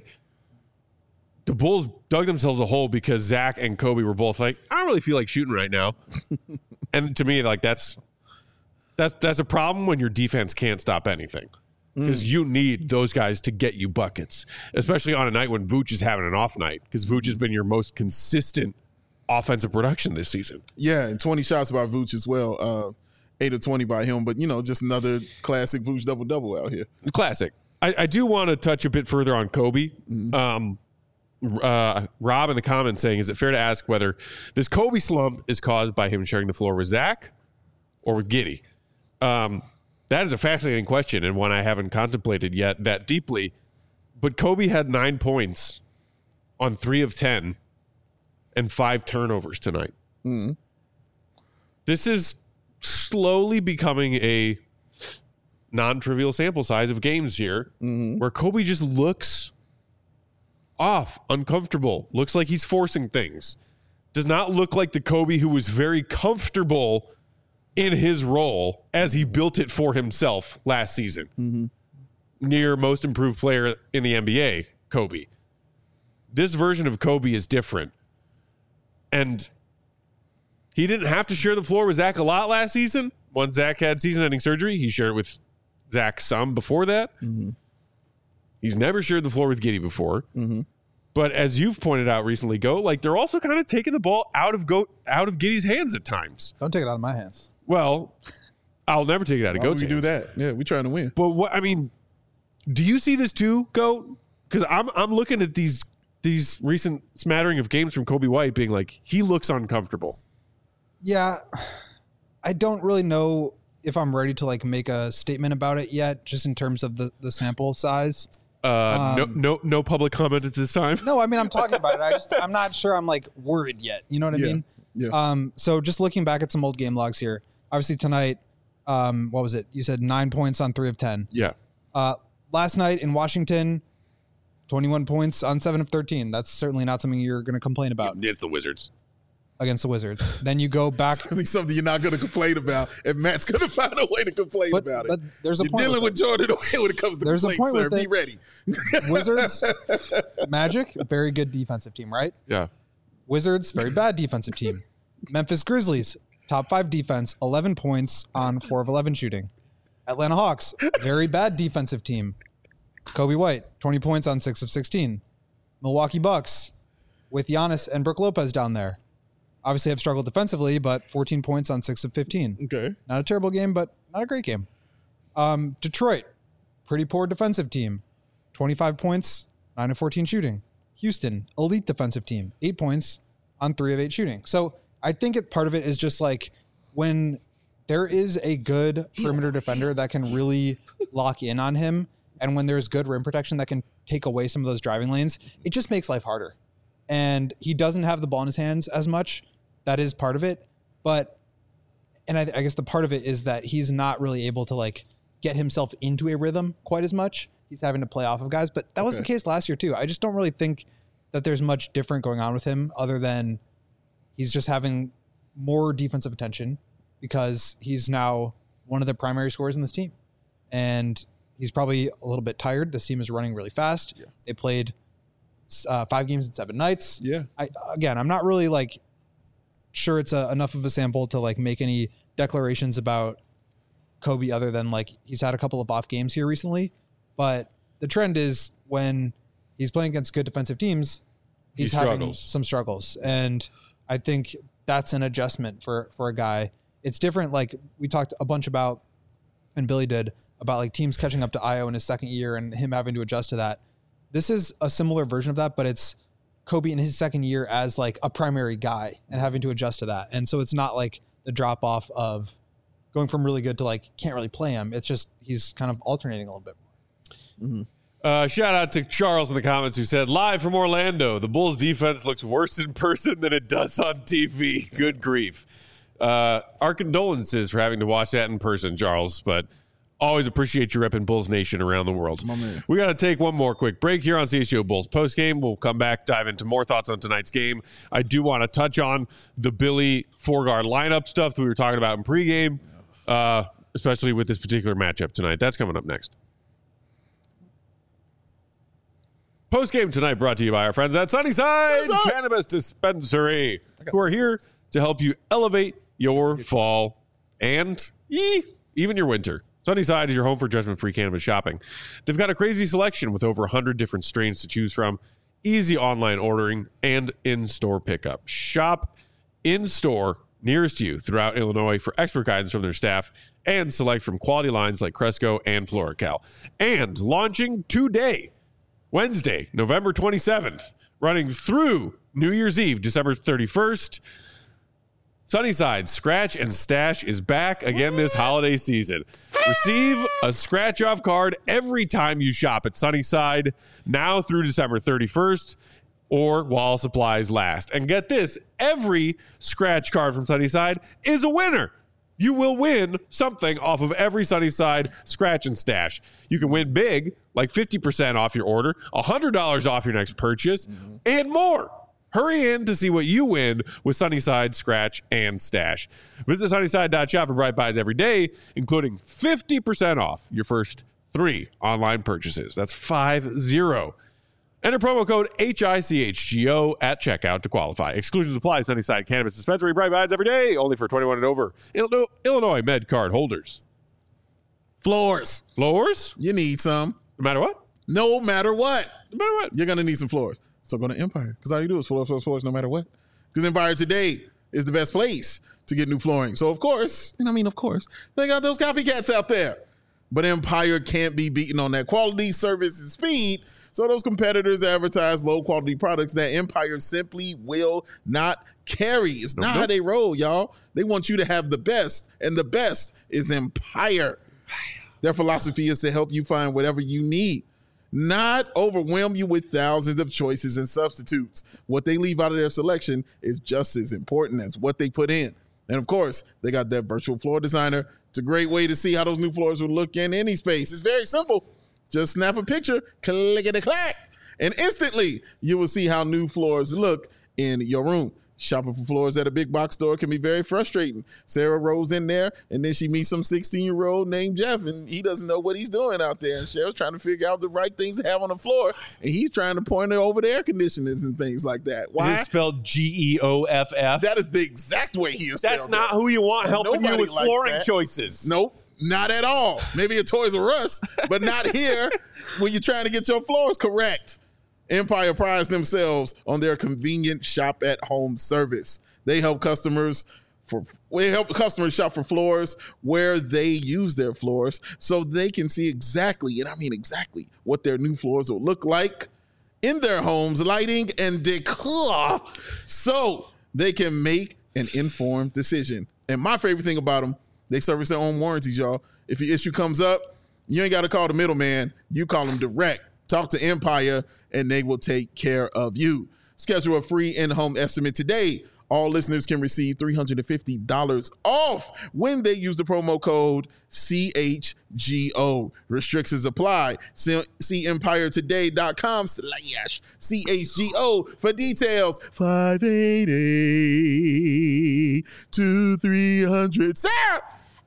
The Bulls dug themselves a hole because Zach and Kobe were both like, I don't really feel like shooting right now. And to me, like that's that's that's a problem when your defense can't stop anything. Because you need those guys to get you buckets, especially on a night when Vooch is having an off night, because Vooch has been your most consistent offensive production this season. Yeah, and twenty shots by Vooch as well. Uh, eight or twenty by him, but, you know, just another classic Vooch double-double out here. Classic. I, I do want to touch a bit further on Kobe. Um, uh, Rob in the comments saying, is it fair to ask whether this Kobe slump is caused by him sharing the floor with Zach or with Giddey? Um, that is a fascinating question and one I haven't contemplated yet that deeply. But Kobe had nine points on three of ten and five turnovers tonight. Mm-hmm. This is slowly becoming a non-trivial sample size of games here Mm-hmm. where Kobe just looks off, uncomfortable, looks like he's forcing things. Does not look like the Kobe who was very comfortable in his role as he built it for himself last season. Mm-hmm. Near most improved player in the N B A, Kobe. This version of Kobe is different. And he didn't have to share the floor with Zach a lot last season. Once Zach had season-ending surgery, he shared it with Zach some before that. Mm-hmm. He's never shared the floor with Giddey before. Mm-hmm. But as you've pointed out recently, Go, like they're also kind of taking the ball out of Go out of Giddey's hands at times. Don't take it out of my hands. Well, I'll never take it out of Why Goat's would we hands. do that? Yeah, we trying to win. But what I mean, do you see this too, Goat? Because I'm I'm looking at these these recent smattering of games from Kobe White being like, he looks uncomfortable. Yeah, I don't really know if I'm ready to like make a statement about it yet, just in terms of the, the sample size. Uh, Um, no, no, no public comment at this time. No, I mean, I'm talking about it. I just, I'm not sure I'm like worried yet. You know what I Yeah, mean? yeah. Um, so just looking back at some old game logs here, obviously tonight, um, what was it? You said nine points on three of ten. Yeah, Uh, last night in Washington, twenty-one points on seven of thirteen. That's certainly not something you're going to complain about it's the Wizards. against the Wizards. Then you go back. Certainly something you're not going to complain about, and Matt's going to find a way to complain But, about it. but there's a You're point dealing with with Jordan away when it comes to There's a complaints, point sir. with Be it. ready. it. Wizards, Magic, very good defensive team, right? Yeah, Wizards, very bad defensive team. Memphis Grizzlies, top five defense, eleven points on four of eleven shooting. Atlanta Hawks, very bad defensive team. Kobe White, twenty points on six of sixteen. Milwaukee Bucks, with Giannis and Brook Lopez down there. Obviously have struggled defensively, but fourteen points on six of fifteen. Okay. Not a terrible game, but not a great game. Um, Detroit, pretty poor defensive team. twenty-five points, nine of fourteen shooting. Houston, elite defensive team, eight points on three of eight shooting. So I think it, part of it is just like when there is a good perimeter defender that can really lock in on him, and when there's good rim protection that can take away some of those driving lanes, it just makes life harder. And he doesn't have the ball in his hands as much. That is part of it. But, and I, I guess the part of it is that he's not really able to like get himself into a rhythm quite as much. He's having to play off of guys, but that was Okay. the case last year too. I just don't really think that there's much different going on with him other than he's just having more defensive attention because he's now one of the primary scorers in this team. And he's probably a little bit tired. This team is running really fast. Yeah. They played uh, five games in seven nights. Yeah. I, again, I'm not really like sure it's a, enough of a sample to like make any declarations about Kobe other than like he's had a couple of off games here recently. But the trend is when he's playing against good defensive teams, he's He having struggles. some struggles. And I think that's an adjustment for, for a guy. It's different. Like we talked a bunch about, and Billy did, about like teams catching up to Io in his second year and him having to adjust to that. This is a similar version of that, but it's Kobe in his second year as like a primary guy and having to adjust to that. And so it's not like the drop off of going from really good to like can't really play him. It's just he's kind of alternating a little bit more. Uh, shout out to Charles in the comments who said, live from Orlando, the Bulls defense looks worse in person than it does on T V. Good grief. Uh, our condolences for having to watch that in person, Charles, but always appreciate you repping Bulls Nation around the world. My man. We got to take one more quick break here on C H G O Bulls postgame. We'll come back, dive into more thoughts on tonight's game. I do want to touch on the Billy four-guard lineup stuff that we were talking about in pregame, uh, especially with this particular matchup tonight. That's coming up next. Postgame tonight brought to you by our friends at Sunnyside Cannabis Dispensary, who are here to help you elevate your fall and ee, even your winter. Sunnyside is your home for judgment-free cannabis shopping. They've got a crazy selection with over one hundred different strains to choose from, easy online ordering, and in-store pickup. Shop in-store nearest you throughout Illinois for expert guidance from their staff and select from quality lines like Cresco and FloraCal. And launching today, Wednesday, November twenty-seventh, running through New Year's Eve, December thirty-first. Sunnyside Scratch and Stash is back again this holiday season. Receive a scratch off card every time you shop at Sunnyside, now through December thirty-first, or while supplies last. And get this, every scratch card from Sunnyside is a winner. You will win something off of every Sunnyside Scratch and Stash. You can win big, like fifty percent off your order, one hundred dollars off your next purchase, and more. Hurry in to see what you win with Sunnyside Scratch and Stash. Visit sunnyside dot shop for bright buys every day, including fifty percent off your first three online purchases. That's five zero. Enter promo code H I C H G O at checkout to qualify. Exclusions apply. Sunnyside Cannabis Dispensary. Bright buys every day, only for twenty-one and over. Illinois, Illinois Med Card holders. Floors. Floors? You need some. No matter what? No matter what. No matter what? You're going to need some floors. So go to Empire, because all you do is floors, floors, floors, no matter what. Because Empire today is the best place to get new flooring. So, of course, and I mean, of course, they got those copycats out there. But Empire can't be beaten on that quality, service, and speed. So those competitors advertise low-quality products that Empire simply will not carry. It's not Nope. how they roll, y'all. They want you to have the best, and the best is Empire. Their philosophy is to help you find whatever you need, not overwhelm you with thousands of choices and substitutes. What they leave out of their selection is just as important as what they put in. And of course, they got that virtual floor designer. It's a great way to see how those new floors will look in any space. It's very simple. Just snap a picture, click-a-clack, and instantly you will see how new floors look in your room. Shopping for floors at a big box store can be very frustrating. Sarah rolls in there, and then she meets some sixteen-year-old named Jeff, and he doesn't know what he's doing out there. And Cheryl's trying to figure out the right things to have on the floor, and he's trying to point her over the air conditioners and things like that. Why? Is it spelled G E O F F? That is the exact way he is spelled. That's not who you want helping Nobody you with likes flooring that. choices. Nope. Not at all. Maybe a Toys R Us, but not here when you're trying to get your floors correct. Empire prides themselves on their convenient shop at home service. They help customers for they help customers shop for floors where they use their floors so they can see exactly, and I mean exactly, what their new floors will look like in their homes, lighting and decor, so they can make an informed decision. And my favorite thing about them, they service their own warranties, y'all. If your issue comes up, you ain't got to call the middleman. You call them direct. Talk to Empire, and they will take care of you. Schedule a free in-home estimate today. All listeners can receive three hundred fifty dollars off when they use the promo code C H G O. Restrictions apply. See empire today dot com slash C H G O for details. five eighty to three hundred. Sarah!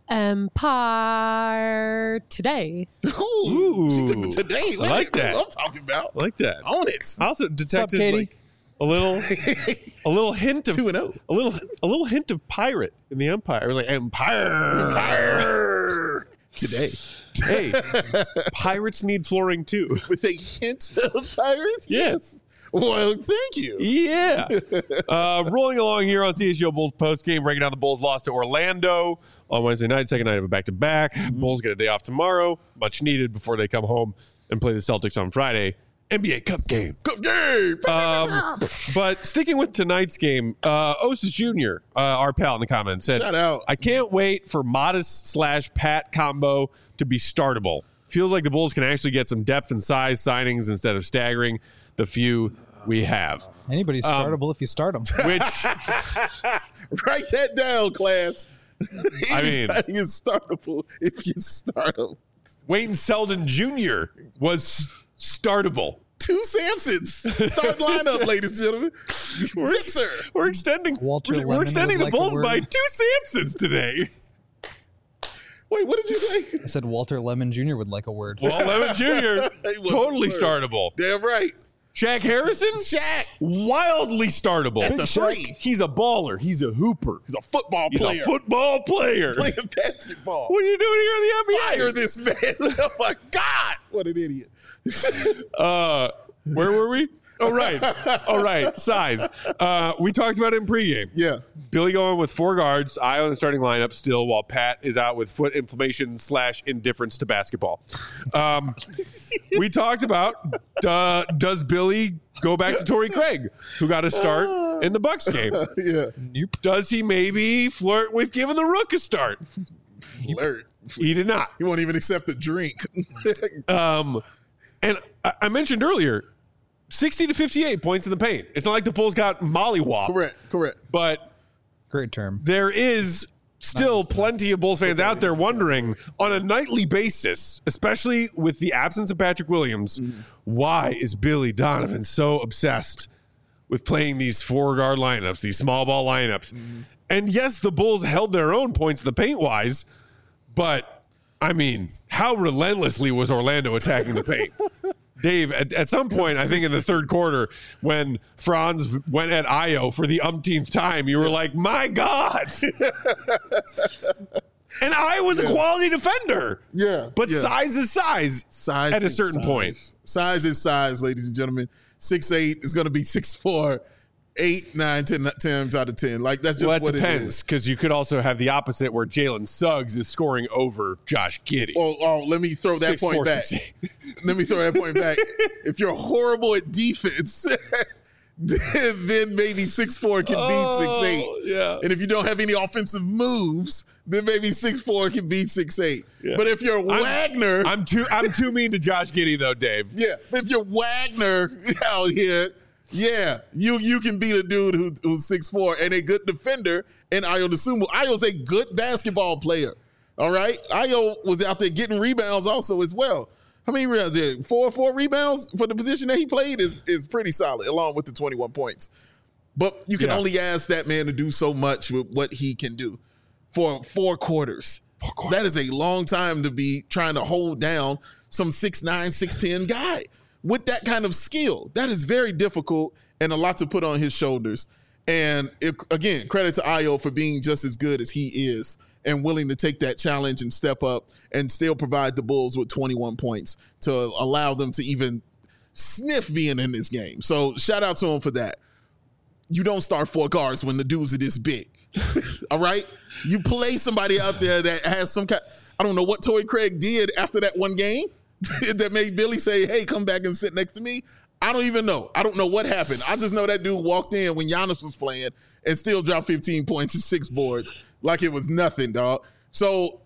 Empire today. Ooh, she took the today. I like that. What I'm talking about. I like that. Own it. I also detected Katie? like a little, a little hint of Two and oh. a little, a little hint of pirate in the Empire. It was like Empire. Empire. Today. Hey, pirates need flooring too. With a hint of pirates? Yes. Well, thank you. Yeah. Uh, rolling along here on C H G O Bulls post game, breaking down the Bulls loss to Orlando on Wednesday night, second night of a back to back. Bulls get a day off tomorrow, much needed before they come home and play the Celtics on Friday. N B A Cup game. Good game. Um, but sticking with tonight's game, uh, Osis Junior, uh, our pal in the comments, said, Shout out. I can't wait for Modest slash Pat combo to be startable. Feels like the Bulls can actually get some depth and size signings instead of staggering the few we have. Anybody's startable if you start them. Which, Write that down, class. I mean- Anybody is startable if you start them. Wayne Selden Junior was startable. Two Samsons. Start lineup, ladies and gentlemen. Zipser. We're extending Walter we're, we're Lemon extending would the like a Bulls word. by two Samsons today. Wait, what did you say? I said Walter Lemon Junior would like a word. Well, Lemon Junior He wasn't totally word. startable. Damn right. Shaq Harrison, Shaq. wildly startable. At the three. He's a baller. He's a hooper. He's a football He's player. a football player. Playing basketball. What are you doing here in the N B A? Fire this man. Oh, my God. What an idiot. Uh, where were we? Oh, right. All right. Size. Uh, we talked about it in pregame. Yeah. Billy going with four guards, eye on the starting lineup still, while Pat is out with foot inflammation slash indifference to basketball. Um, we talked about uh, does Billy go back to Torrey Craig, who got a start in the Bucks game? Yeah. Nope. Does he maybe flirt with giving the Rook a start? Flirt. He did not. He won't even accept the drink. Um, and I, I mentioned earlier, sixty to fifty-eight points in the paint. It's not like the Bulls got mollywopped. correct. Correct. But Great term. there is still plenty of Bulls fans out there wondering on a nightly basis, especially with the absence of Patrick Williams, why is Billy Donovan so obsessed with playing these four guard lineups, these small ball lineups. Mm-hmm. And yes, the Bulls held their own points in the paint wise, but I mean, how relentlessly was Orlando attacking the paint? Dave, at, at some point, I think in the third quarter, when Franz went at Ayo for the umpteenth time, you were like, my God. And I was yeah. a quality defender. Yeah. But yeah. size is size. Size at a certain size. point. Size is size, ladies and gentlemen. six eight is going to be six four, eight, nine, ten times out of ten. Like, that's just well, what depends, it is. Because you could also have the opposite where Jalen Suggs is scoring over Josh Giddey. Oh, oh let me throw that six, point four, back. Let me throw that point back. If you're horrible at defense, then, then maybe six four can oh, beat six eight. Yeah. And if you don't have any offensive moves, then maybe six four can beat six eight. Yeah. But if you're I'm, Wagner, I'm too I'm too mean to Josh Giddey though, Dave. Yeah, if you're Wagner out here, yeah, you you can beat a dude who, who's six four and a good defender. And Ayo Dosunmu, Ayo's a good basketball player. All right, Ayo was out there getting rebounds also as well. How many rebounds did he? Four four rebounds for the position that he played is is pretty solid, along with the twenty-one points. But you can yeah. only ask that man to do so much with what he can do for four quarters. four quarters. That is a long time to be trying to hold down some six nine, six ten guy with that kind of skill. That is very difficult and a lot to put on his shoulders. And it, again, credit to Ayo for being just as good as he is and willing to take that challenge and step up and still provide the Bulls with twenty-one points to allow them to even sniff being in this game. So shout out to him for that. You don't start four guards when the dudes are this big. All right? You play somebody out there that has some kind, I don't know what Torrey Craig did after that one game that made Billy say, hey, come back and sit next to me. I don't even know. I don't know what happened. I just know that dude walked in when Giannis was playing and still dropped fifteen points and six boards like it was nothing, dog. So,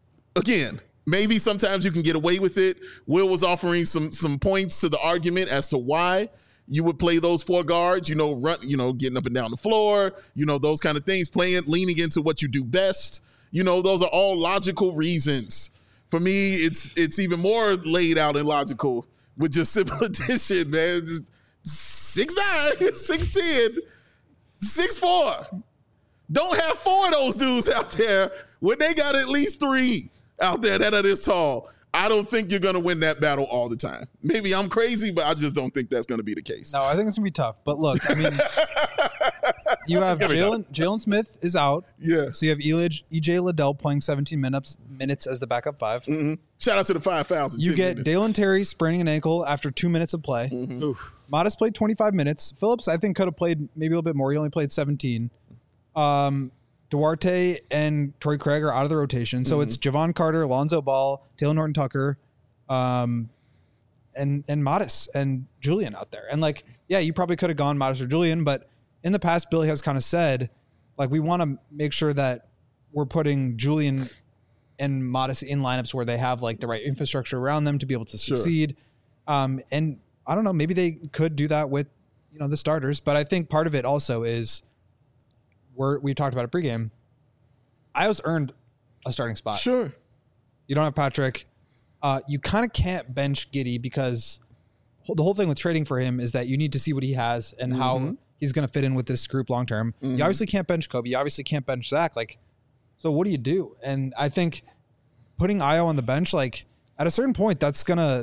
again, maybe sometimes you can get away with it. Will was offering some some points to the argument as to why you would play those four guards, you know, run, you know, getting up and down the floor, you know, those kind of things, playing, leaning into what you do best. You know, those are all logical reasons. For me, it's it's even more laid out and logical with just simple addition, man. Just six nine, six ten, six four. Don't have four of those dudes out there when they got at least three out there that are this tall. I don't think you're going to win that battle all the time. Maybe I'm crazy, but I just don't think that's going to be the case. No, I think it's going to be tough. But look, I mean, you have Jalen Jalen Smith is out. Yeah. So you have Elijah, E J Liddell playing seventeen minutes minutes as the backup five. Mm-hmm. Shout out to the five thousand. You get minutes. Dalen Terry spraining an ankle after two minutes of play. Mm-hmm. Modest played twenty-five minutes. Phillips, I think, could have played maybe a little bit more. He only played seventeen. Um, Duarte and Torrey Craig are out of the rotation. So mm-hmm. it's Javon Carter, Lonzo Ball, Taylor Norton Tucker, um, and and Modest and Julian out there. And like, yeah, you probably could have gone Modest or Julian, but in the past, Billy has kind of said, like, we want to make sure that we're putting Julian and Modest in lineups where they have like the right infrastructure around them to be able to succeed. Sure. Um, and I don't know, maybe they could do that with, you know, the starters, but I think part of it also is we're, we talked about it pregame. Ayo's earned a starting spot. Sure. You don't have Patrick. Uh, you kind of can't bench Giddey because the whole thing with trading for him is that you need to see what he has and mm-hmm. how he's going to fit in with this group long term. Mm-hmm. You obviously can't bench Kobe. You obviously can't bench Zach. Like, so what do you do? And I think putting Ayo on the bench, like at a certain point, that's going to,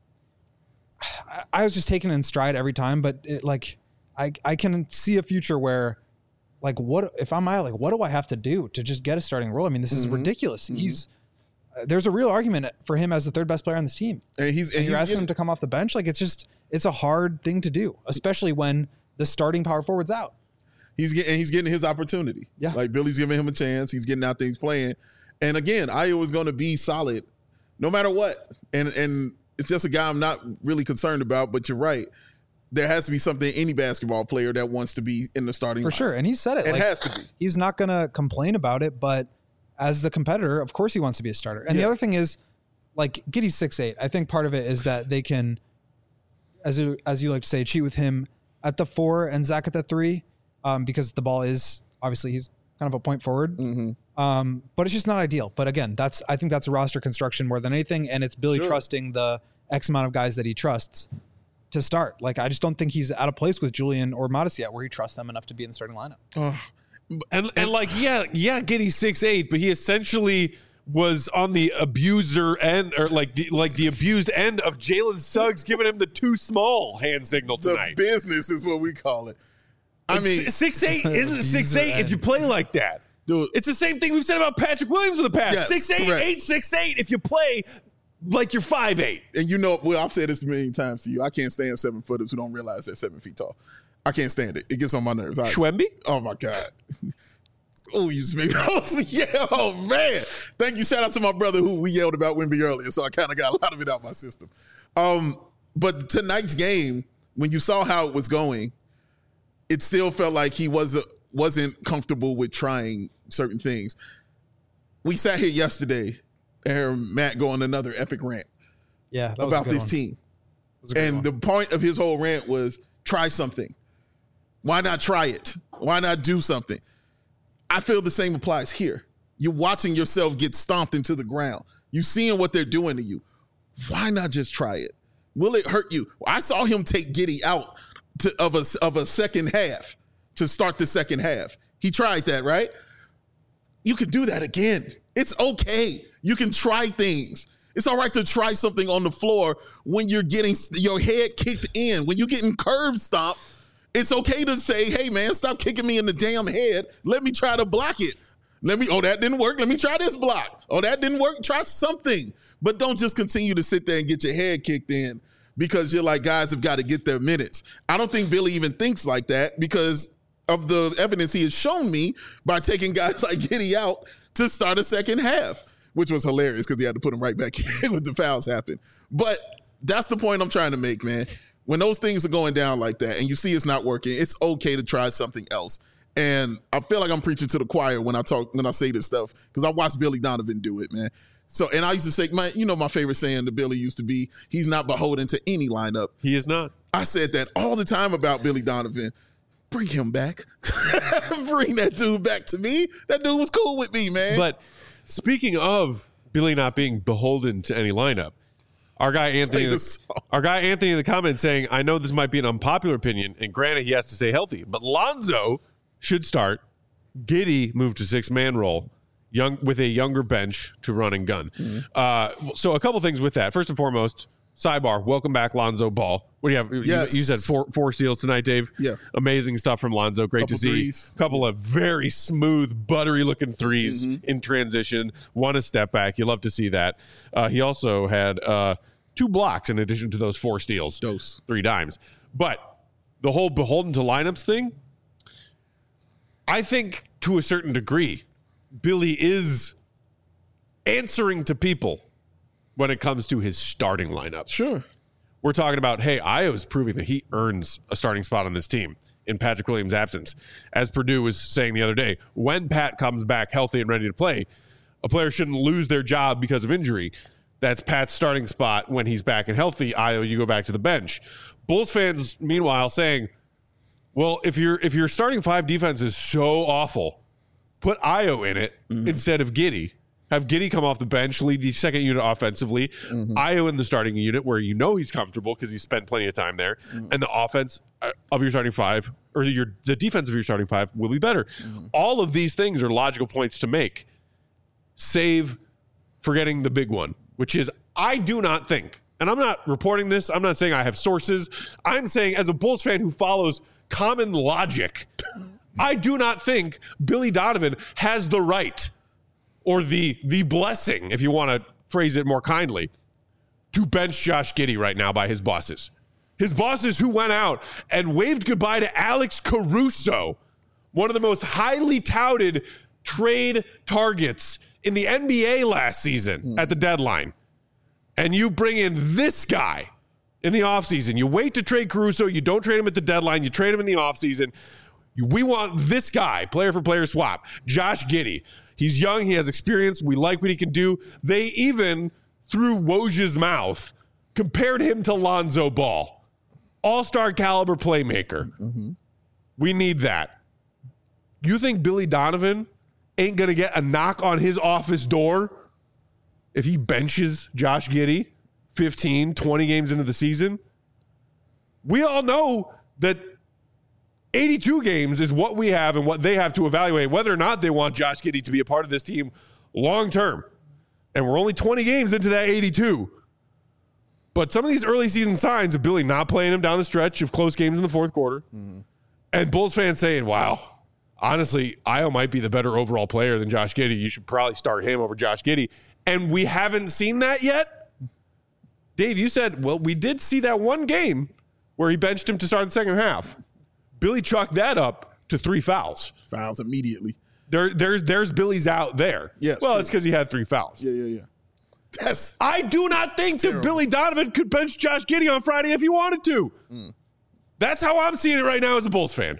I was just taken in stride every time, but it, like, I, I can see a future where like, what, if I'm Ayo, like, what do I have to do to just get a starting role? I mean, this is mm-hmm. ridiculous. Mm-hmm. He's, uh, there's a real argument for him as the third best player on this team. And he's, and, and you're he's asking getting, him to come off the bench. Like, it's just, it's a hard thing to do, especially when the starting power forward's out. He's getting, he's getting his opportunity. Yeah. Like Billy's giving him a chance. He's getting out there, he's playing. And again, Ayo is going to be solid no matter what. And, and it's just a guy I'm not really concerned about, but you're right. There has to be something any basketball player that wants to be in the starting for line. sure. And he said it. It like, has to be. He's not going to complain about it, but as the competitor, of course he wants to be a starter. And yeah. the other thing is, like, Giddey's six eight. I think part of it is that they can, as you, as you like to say, cheat with him at the four and Zach at the three, um, because the ball is obviously he's kind of a point forward. Mm-hmm. Um, but it's just not ideal. But again, that's I think that's roster construction more than anything, and it's Billy sure. trusting the X amount of guys that he trusts to start. Like, I just don't think he's at a place with Julian or Modest yet where he trusts them enough to be in the starting lineup. Uh, And and like, yeah, yeah, Giddey six eight, but he essentially was on the abuser end, or like the like the abused end of Jalen Suggs giving him the too small hand signal the tonight. business is what we call it. I mean, six eight isn't six eight if you play like that. Dude. It's the same thing we've said about Patrick Williams in the past. Yes, six eight, correct. eight six eight if you play like you're five eight. and you know, well, I've said this a million times to you. I can't stand seven footers who don't realize they're seven feet tall. I can't stand it. It gets on my nerves. I, Schwemby? Oh my God. Oh, you just made me. Yeah, oh man. Thank you. Shout out to my brother who we yelled about Wemby earlier, so I kind of got a lot of it out my system. Um, but tonight's game, when you saw how it was going, it still felt like he wasn't wasn't comfortable with trying certain things. We sat here yesterday and heard Matt go on another epic rant Yeah, that was a about good this one. team. That was a good And one. the point of his whole rant was try something. Why not try it? Why not do something? I feel the same applies here. You're watching yourself get stomped into the ground. You're seeing what they're doing to you. Why not just try it? Will it hurt you? I saw him take Giddey out to, of, a, of a second half to start the second half. He tried that, right? You can do that again. It's okay. You can try things. It's all right to try something on the floor when you're getting your head kicked in, when you're getting curb stomped. It's okay to say, hey, man, stop kicking me in the damn head. Let me try to block it. Let me, oh, that didn't work. Let me try this block. Oh, that didn't work. Try something. But don't just continue to sit there and get your head kicked in because you're like, guys have got to get their minutes. I don't think Billy even thinks like that because of the evidence he has shown me by taking guys like Giddey out to start a second half, which was hilarious because he had to put him right back in when the fouls happened. But that's the point I'm trying to make, man. When those things are going down like that and you see it's not working, it's okay to try something else. And I feel like I'm preaching to the choir when I talk, when I say this stuff, because I watched Billy Donovan do it, man. So, and I used to say, my, you know, my favorite saying to Billy used to be, he's not beholden to any lineup. He is not. I said that all the time about Billy Donovan. Bring him back. Bring that dude back to me. That dude was cool with me, man. But speaking of Billy not being beholden to any lineup, our guy Anthony, Play the song. our guy Anthony in the comments saying, I know this might be an unpopular opinion, and granted he has to stay healthy, but Lonzo should start. Giddey moved to six-man role, young with a younger bench to run and gun. Mm-hmm. Uh, so a couple things with that. First and foremost, sidebar, welcome back, Lonzo Ball. What do you have? You- Yes. You, said four four steals tonight, Dave. Yeah. Amazing stuff from Lonzo. Great Couple to see. threes. Couple of very smooth, buttery looking threes Mm-hmm. in transition. One a step back. You love to see that. Uh, he also had uh, two blocks in addition to those four steals. Dose. Three dimes. But the whole beholden to lineups thing, I think to a certain degree, Billy is answering to people when it comes to his starting lineup. Sure. We're talking about, hey, Io's proving that he earns a starting spot on this team in Patrick Williams' absence. As Purdue was saying the other day, when Pat comes back healthy and ready to play, a player shouldn't lose their job because of injury. That's Pat's starting spot when he's back and healthy. Io, you go back to the bench. Bulls fans, meanwhile, saying, well, if your if your starting five defense is so awful, put Io in it mm-hmm. instead of Giddey. Have Giddey come off the bench, lead the second unit offensively. Mm-hmm. Io in the starting unit where you know he's comfortable because he's spent plenty of time there. Mm-hmm. And the offense of your starting five, or your the defense of your starting five, will be better. Mm-hmm. All of these things are logical points to make, save forgetting the big one, which is I do not think, and I'm not reporting this, I'm not saying I have sources, I'm saying as a Bulls fan who follows common logic, I do not think Billy Donovan has the right or the the blessing, if you want to phrase it more kindly, to bench Josh Giddey right now by his bosses. His bosses who went out and waved goodbye to Alex Caruso, one of the most highly touted trade targets in the N B A last season mm. at the deadline. And you bring in this guy in the offseason. You wait to trade Caruso. You don't trade him at the deadline. You trade him in the offseason. We want this guy, player for player swap, Josh Giddey. He's young. He has experience. We like what he can do. They even, through Woj's mouth, compared him to Lonzo Ball. All-star caliber playmaker. Mm-hmm. We need that. You think Billy Donovan ain't going to get a knock on his office door if he benches Josh Giddey fifteen, twenty games into the season? we all know that eighty-two games is what we have and what they have to evaluate whether or not they want Josh Giddey to be a part of this team long term. And we're only twenty games into that eighty-two. But some of these early season signs of Billy not playing him down the stretch of close games in the fourth quarter, mm-hmm. and Bulls fans saying, wow, honestly, Ayo might be the better overall player than Josh Giddey. You should probably start him over Josh Giddey. And we haven't seen that yet. Dave, you said, well, we did see that one game where he benched him to start the second half. Billy chalked that up to three fouls. Fouls immediately. There, there, there's Billy's out there. Yes, well, true. It's because he had three fouls. Yeah, yeah, yeah. That's I do not think terrible. that Billy Donovan could bench Josh Giddey on Friday if he wanted to. Mm. That's how I'm seeing it right now as a Bulls fan.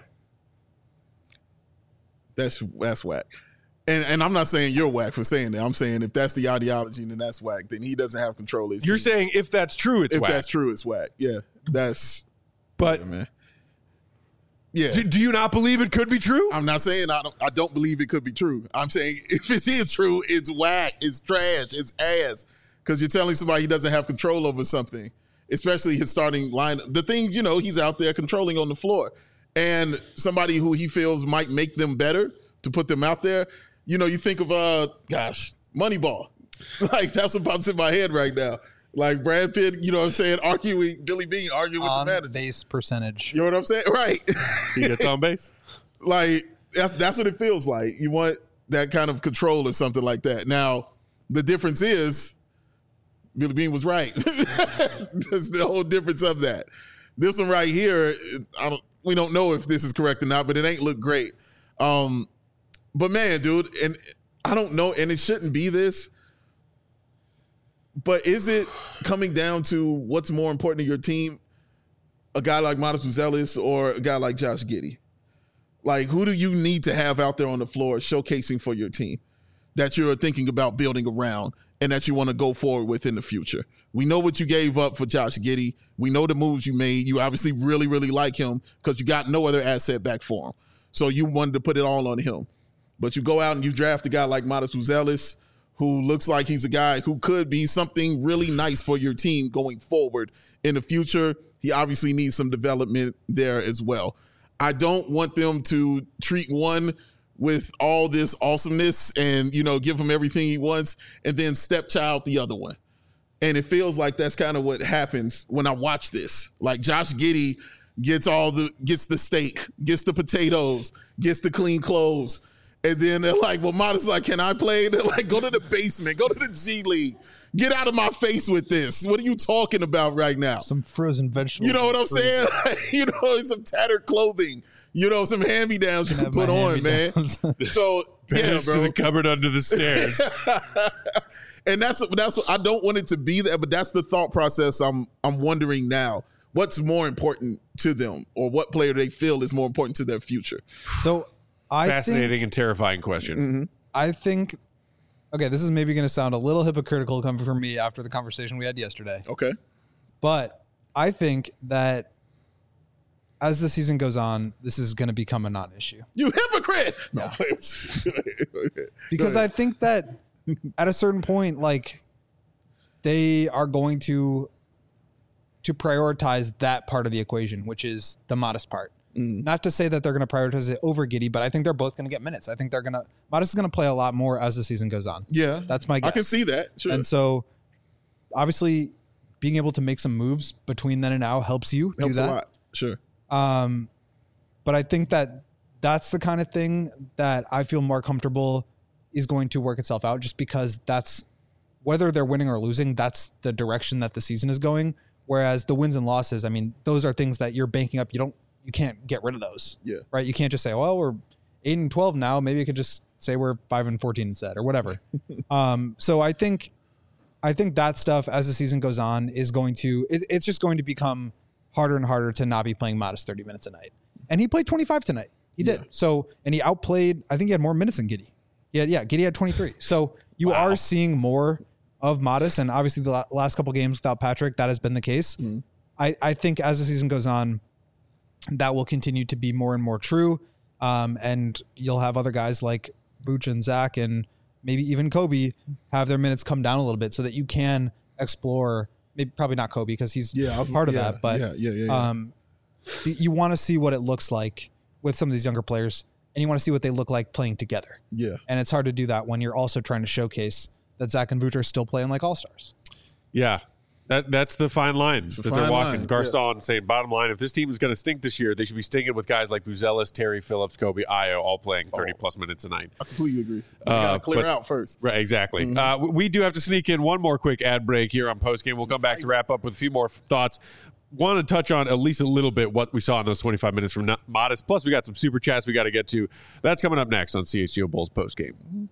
That's that's whack. And and I'm not saying you're whack for saying that. I'm saying if that's the ideology, then that's whack. Then he doesn't have control of his You're team. saying if that's true, it's if whack. If that's true, it's whack. Yeah, that's. But yeah, man. Yeah. Do, do you not believe it could be true? I'm not saying I don't. I don't believe it could be true. I'm saying if it is true, it's whack. It's trash. It's ass. Because you're telling somebody he doesn't have control over something, especially his starting line. The things, you know, he's out there controlling on the floor. And somebody who he feels might make them better to put them out there. You know, you think of, uh, gosh, Moneyball. Like, that's what pops in my head right now. Like Brad Pitt, you know what I'm saying, arguing, Billy Bean arguing with on the manager. base percentage. You know what I'm saying? Right. He gets on base. Like, that's that's what it feels like. You want that kind of control or something like that. Now, the difference is Billy Bean was right. That's the whole difference of that. This one right here, I don't. We don't know if this is correct or not, but it ain't look great. Um, but man, dude, and I don't know, and it shouldn't be this. But is it coming down to what's more important to your team, a guy like Modest Buzelis or a guy like Josh Giddey? Like, who do you need to have out there on the floor showcasing for your team that you're thinking about building around and that you want to go forward with in the future? We know what you gave up for Josh Giddey. We know the moves you made. You obviously really, really like him because you got no other asset back for him. So you wanted to put it all on him. But you go out and you draft a guy like Modest Buzelis, who looks like he's a guy who could be something really nice for your team going forward in the future. He obviously needs some development there as well. I don't want them to treat one with all this awesomeness and, you know, give him everything he wants and then stepchild the other one. And it feels like that's kind of what happens when I watch this. Like Josh Giddey gets all the, gets the steak, gets the potatoes, gets the clean clothes. And then they're like, well, Modest like, can I play? They're like, go to the basement, go to the G League. Get out of my face with this. What are you talking about right now? Some frozen vegetables. You know what I'm saying? you know, some tattered clothing. You know, some hand-me-downs you can put on, man. So, yeah, bro. To the cupboard under the stairs. And that's that's I don't want it to be that, but that's the thought process I'm I'm wondering now. What's more important to them, or what player they feel is more important to their future? So I Fascinating think, and terrifying question. Mm-hmm. I think, okay, this is maybe going to sound a little hypocritical coming from me after the conversation we had yesterday. Okay. But I think that as the season goes on, this is going to become a non-issue. You hypocrite! No, Yeah. Because I think that at a certain point, like, they are going to to prioritize that part of the equation, which is the Modest part. Mm. Not to say that they're going to prioritize it over Giddey, but I think they're both going to get minutes. I think they're going to Modest is going to play a lot more as the season goes on. Yeah, that's my guess. I can see that. Sure. And so, obviously, being able to make some moves between then and now helps you helps do that. a lot. Sure. Um, but I think that that's the kind of thing that I feel more comfortable is going to work itself out, just because that's whether they're winning or losing, that's the direction that the season is going. Whereas the wins and losses, I mean, those are things that you're banking up. You don't, you can't get rid of those. Yeah. Right. You can't just say, well, we're eight and twelve now. Maybe you could just say we're five and fourteen instead or whatever. um, so I think, I think that stuff as the season goes on is going to, it, it's just going to become harder and harder to not be playing Modest thirty minutes a night. And he played twenty-five tonight. He did. Yeah. So, and he outplayed, I think he had more minutes than Giddey. Yeah. Yeah. Giddey had twenty-three. So you wow. are seeing more of Modest, and obviously the last couple games without Patrick, that has been the case. Mm. I, I think as the season goes on, that will continue to be more and more true. Um, and you'll have other guys like Vooch and Zach and maybe even Kobe have their minutes come down a little bit so that you can explore maybe probably not Kobe because he's Yeah, I was- part of yeah, that. But yeah, yeah, yeah, yeah. um, y- you want to see what it looks like with some of these younger players, and you want to see what they look like playing together. Yeah. And it's hard to do that when you're also trying to showcase that Zach and Vooch are still playing like all stars. Yeah. That that's the fine line a that they're fine walking. line, Garcon saying, bottom line, if this team is going to stink this year, they should be stinking with guys like Buzelis, Terry, Phillips, Kobe, Io, all playing thirty-plus minutes a night. I completely agree. We Uh, gotta clear but- out first. Right, exactly. Mm-hmm. Uh, we do have to sneak in one more quick ad break here on Postgame. We'll come back to wrap up with a few more thoughts. Want to touch on at least a little bit what we saw in those twenty-five minutes from Modest. Plus, we got some super chats we got to get to. That's coming up next on C H G O Bulls Postgame. Mm-hmm.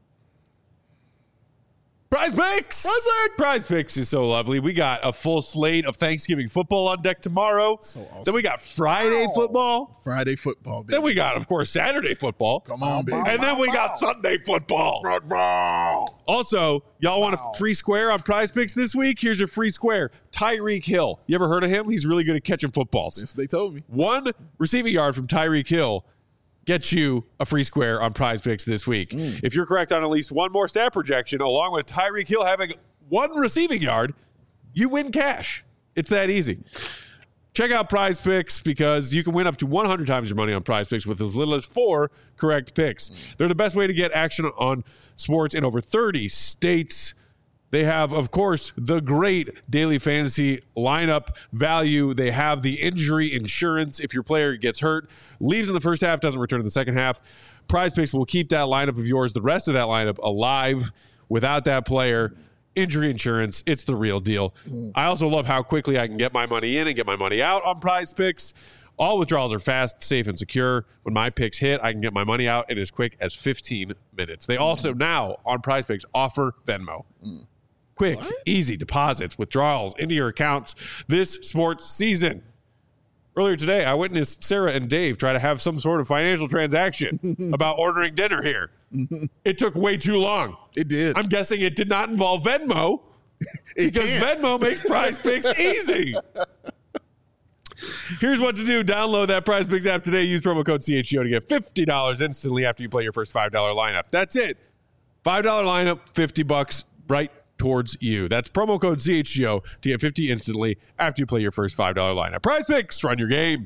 Prize Picks! Prize Picks! Prize Picks is so lovely. We got a full slate of Thanksgiving football on deck tomorrow. So awesome. Then we got Friday football. Friday football, baby. Then we got, of course, Saturday football. Come on, baby. And then we got Sunday football. Football. Also, y'all want a free square on Prize Picks this week? Here's your free square. Tyreek Hill. You ever heard of him? He's really good at catching footballs. Yes, they told me. One receiving yard from Tyreek Hill gets you a free square on Prize Picks this week. Mm. If you're correct on at least one more stat projection, along with Tyreek Hill having one receiving yard, you win cash. It's that easy. Check out Prize Picks because you can win up to one hundred times your money on Prize Picks with as little as four correct picks. They're the best way to get action on sports in over thirty states. They have, of course, the great daily fantasy lineup value. They have the injury insurance if your player gets hurt, leaves in the first half, doesn't return in the second half. Prize Picks will keep that lineup of yours, the rest of that lineup, alive without that player. Injury insurance, it's the real deal. I also love how quickly I can get my money in and get my money out on Prize Picks. All withdrawals are fast, safe, and secure. When my picks hit, I can get my money out in as quick as fifteen minutes. They also now, on Prize Picks, offer Venmo. Quick, easy deposits, withdrawals into your accounts this sports season. Earlier today, I witnessed Sarah and Dave try to have some sort of financial transaction about ordering dinner here. It took way too long. It did. I'm guessing it did not involve Venmo It because can't. Venmo makes Prize Picks easy. Here's what to do. Download that Prize Picks app today. Use promo code C H G O to get fifty dollars instantly after you play your first five dollar lineup. That's it. five dollar lineup, fifty bucks right towards you. That's promo code C H G O to get fifty instantly after you play your first five dollar lineup. Prize Picks, run your game.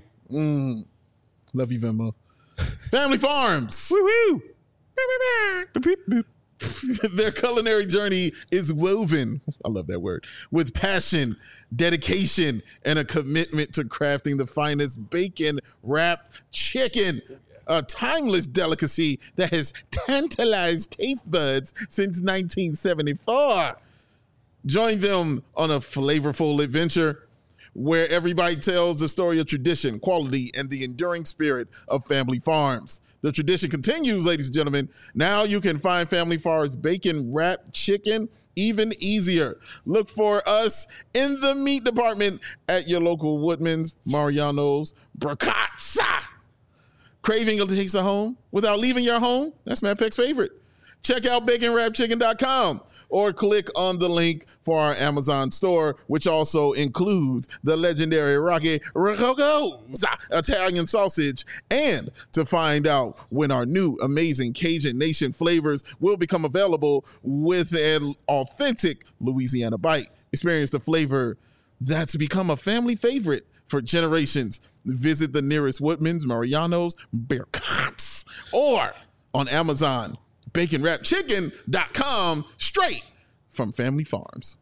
Love you, Venmo. Family Farms. Woo-hoo. Boop, boop, boop. Their culinary journey is woven, I love that word, with passion, dedication, and a commitment to crafting the finest bacon-wrapped chicken, a timeless delicacy that has tantalized taste buds since nineteen seventy-four. Join them on a flavorful adventure where everybody tells the story of tradition, quality, and the enduring spirit of Family Farms. The tradition continues, ladies and gentlemen. Now you can find Family Farms bacon wrapped chicken even easier. Look for us in the meat department at your local Woodman's, Mariano's, Bracazza. Craving a taste of home without leaving your home? That's Matt Peck's favorite. Check out bacon wrap chicken dot com or click on the link for our Amazon store, which also includes the legendary Rocky Rococo's Italian sausage. And to find out when our new amazing Cajun Nation flavors will become available with an authentic Louisiana bite. Experience the flavor that's become a family favorite for generations. Visit the nearest Woodman's, Mariano's, Bear Cops, or on Amazon, bacon wrap chicken dot com, straight from Family Farms.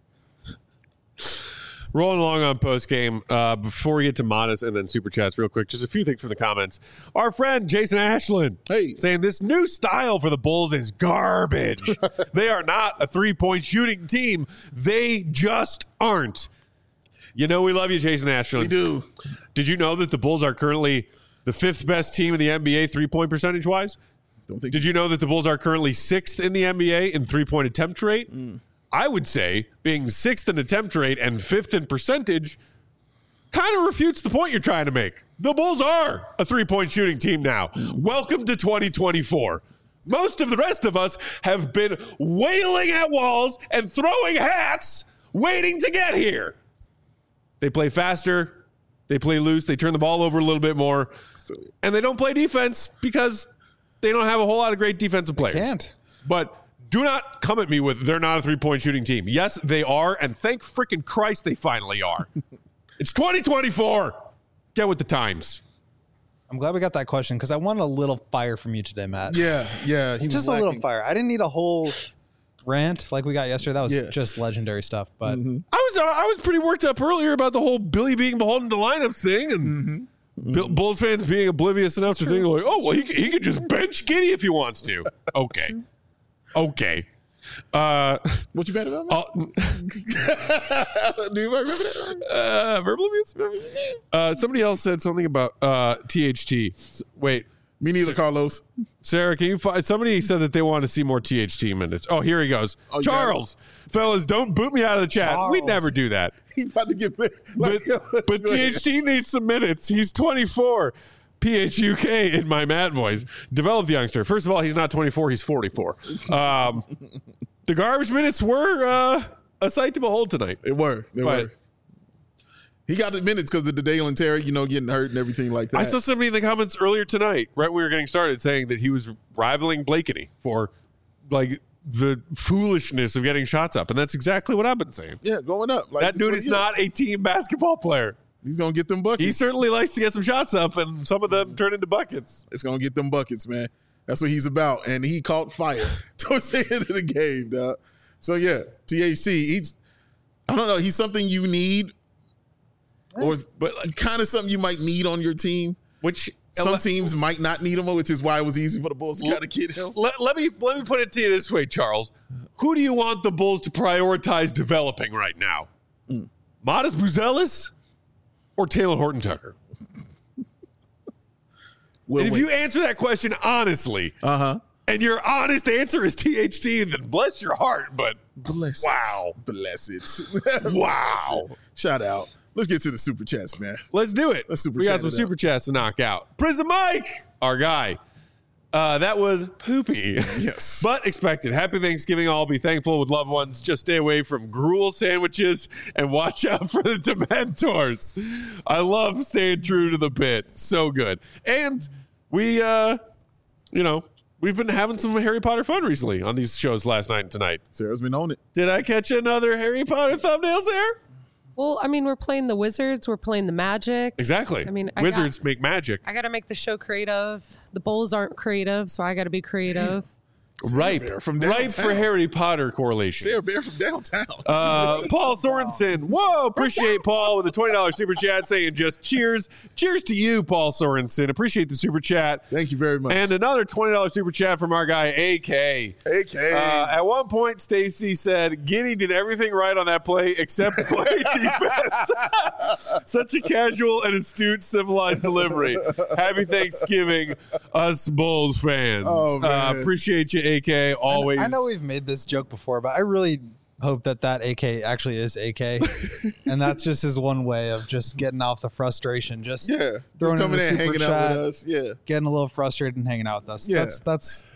Rolling along on post game. Uh, before we get to Modest and then Super Chats, real quick, just a few things from the comments. Our friend Jason Ashland Hey. saying this new style for the Bulls is garbage. They are not a three point shooting team. They just aren't. You know, we love you, Jason Ashland. We do. Did you know that the Bulls are currently the fifth best team in the N B A three point percentage wise? Don't think Did you know that the Bulls are currently sixth in the N B A in three point attempt rate? Mm. I would say being sixth in attempt rate and fifth in percentage kind of refutes the point you're trying to make. The Bulls are a three point shooting team now. Welcome to twenty twenty-four. Most of the rest of us have been wailing at walls and throwing hats waiting to get here. They play faster. They play loose. They turn the ball over a little bit more. And they don't play defense because they don't have a whole lot of great defensive players. Can't. But Do not come at me with they're not a three-point shooting team. Yes, they are, and thank freaking Christ they finally are. It's twenty twenty-four. Get with the times. I'm glad we got that question because I wanted a little fire from you today, Matt. Yeah, yeah. He Just was a little lacking. fire. I didn't need a whole rant like we got yesterday. That was Yeah. just legendary stuff. But Mm-hmm. I was uh, I was pretty worked up earlier about the whole Billy being beholden to lineups thing, and Mm-hmm. Bill, Bulls fans being oblivious enough to think like, oh well, he could- he could just bench Giddey if he wants to. Okay, okay. Uh, What you mad about? uh, Do you remember that? uh, verbal abuse. Uh, somebody else said something about uh, T H T. S- Wait, Me neither, Carlos. Sarah, can you find somebody said that they want to see more T H T minutes? Oh, here he goes. Oh, you got Charles, fellas, don't boot me out of the chat. We Charles. never do that. He's about to get But, like, but go ahead. T H T needs some minutes. He's twenty-four. P H U K in my Matt voice. Develop the youngster. First of all, he's not twenty-four. He's forty-four. Um, the garbage minutes were uh, a sight to behold tonight. They were. They But- were. He got the minutes because of the Dalen Terry, you know, getting hurt and everything like that. I saw somebody in the comments earlier tonight, right when we were getting started, saying that he was rivaling Blakeney for like the foolishness of getting shots up, and that's exactly what I've been saying. yeah, going up. Like, That that's dude what is he not a team basketball player. He's gonna get them buckets. He certainly likes to get some shots up, and some of them turn into buckets. It's gonna get them buckets, man. That's what he's about. And he caught fire towards the end of the game, dog. So yeah, T H C. He's I don't know. He's something you need, or but kind of something you might need on your team. Which Some teams might not need him, which is why it was easy for the Bulls to kind of get him. Let, let me let me put it to you this way, Charles. Who do you want the Bulls to prioritize developing right now? Mm. Modest Buzelis or Taylor Horton Tucker? We'll and if wait. you answer that question honestly, uh huh. and your honest answer is T H T, then bless your heart. But Bless Wow. it. Bless it. wow. Shout out. Let's get to the super chats, man. Let's do it. Let's super we got chat some it out. super chats to knock out. Prison Mike, our guy. Uh, that was poopy. Yes. But expected. Happy Thanksgiving. All be thankful with loved ones. Just stay away from gruel sandwiches and watch out for the Dementors. I love staying true to the bit. So good. And we, uh, you know, we've been having some Harry Potter fun recently on these shows last night and tonight. Sarah's been on it. Did I catch another Harry Potter thumbnails there? Well, I mean, we're playing the Wizards. We're playing the Magic. Exactly. I mean, I Wizards make magic. I got to make the show creative. The Bulls aren't creative, so I got to be creative. Ripe. Bear from Ripe downtown. for Harry Potter correlation. Sarah Bear from downtown. Uh, Paul Sorensen. Whoa, appreciate Paul with a twenty dollars super chat saying just cheers. Cheers to you, Paul Sorensen. Appreciate the super chat. Thank you very much. And another twenty dollars super chat from our guy, A K. A K. Uh, at one point, Stacy said, Giddey did everything right on that play except play defense. Such a casual and astute, civilized delivery. Happy Thanksgiving, us Bulls fans. Oh, man. Uh, appreciate you, A K. Always. I know we've made this joke before, but I really hope that that A K actually is A K, and that's just his one way of just getting off the frustration. Just yeah. Just throwing in coming the in and super hanging chat, out with us. Yeah. getting a little frustrated and hanging out with us. Yeah. That's that's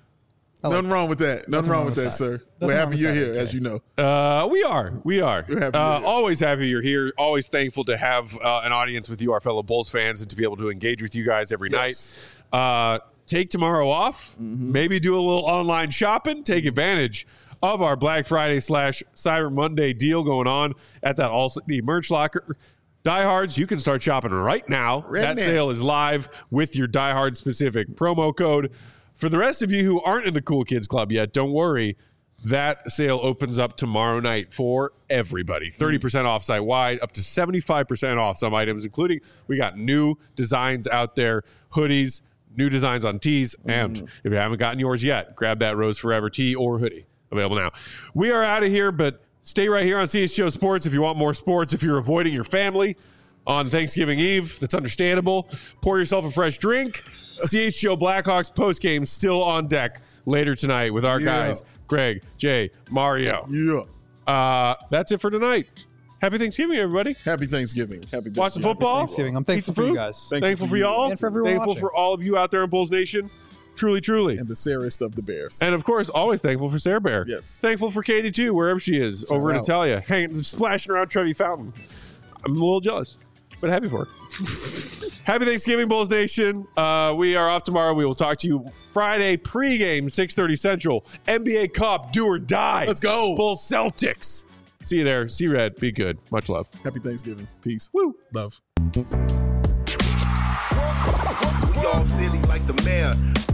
I like Nothing wrong with that. Nothing, wrong with that, sir. Nothing We're wrong happy with you're that, here, A K. as you know. Uh, we are. We are. We're happy uh, you're here. always happy you're here. Always thankful to have uh, an audience with you, our fellow Bulls fans, and to be able to engage with you guys every Yes. night. Uh, take tomorrow off. Mm-hmm. Maybe do a little online shopping. Take advantage of our Black Friday slash Cyber Monday deal going on at that All City merch locker. Diehards, you can start shopping right now. Right that now. sale is live with your Diehard specific promo code. For the rest of you who aren't in the Cool Kids Club yet, don't worry. That sale opens up tomorrow night for everybody. thirty percent off site wide, up to seventy-five percent off some items, including we got new designs out there, hoodies, new designs on tees. And if you haven't gotten yours yet, grab that Rose Forever tee or hoodie. Available now. We are out of here, but stay right here on C H G O Sports if you want more sports. If you're avoiding your family on Thanksgiving Eve, that's understandable. Pour yourself a fresh drink. C H G O Blackhawks postgame still on deck later tonight with our Yeah. guys, Greg, Jay, Mario. Yeah. Uh, that's it for tonight. Happy Thanksgiving, everybody. Happy Thanksgiving. Happy Watch some Thanksgiving. football. Thanksgiving. I'm Eat thankful some for you food. guys. Thankful Thankful for for you. y'all. And for everyone Thankful watching. for all of you out there in Bulls Nation. Truly, truly. And the Sarahist of the Bears. And of course, always thankful for Sarah Bear. Yes. Thankful for Katie too, wherever she is, over in out. Italia, hanging, splashing around Trevi Fountain. I'm a little jealous. but happy for her. Happy Thanksgiving, Bulls Nation. Uh, we are off tomorrow. We will talk to you Friday pregame, six thirty Central. N B A Cup, do or die. Let's go. Bulls Celtics. See you there. See Red. Be good. Much love. Happy Thanksgiving. Peace. Woo. Love. We all silly like the mayor.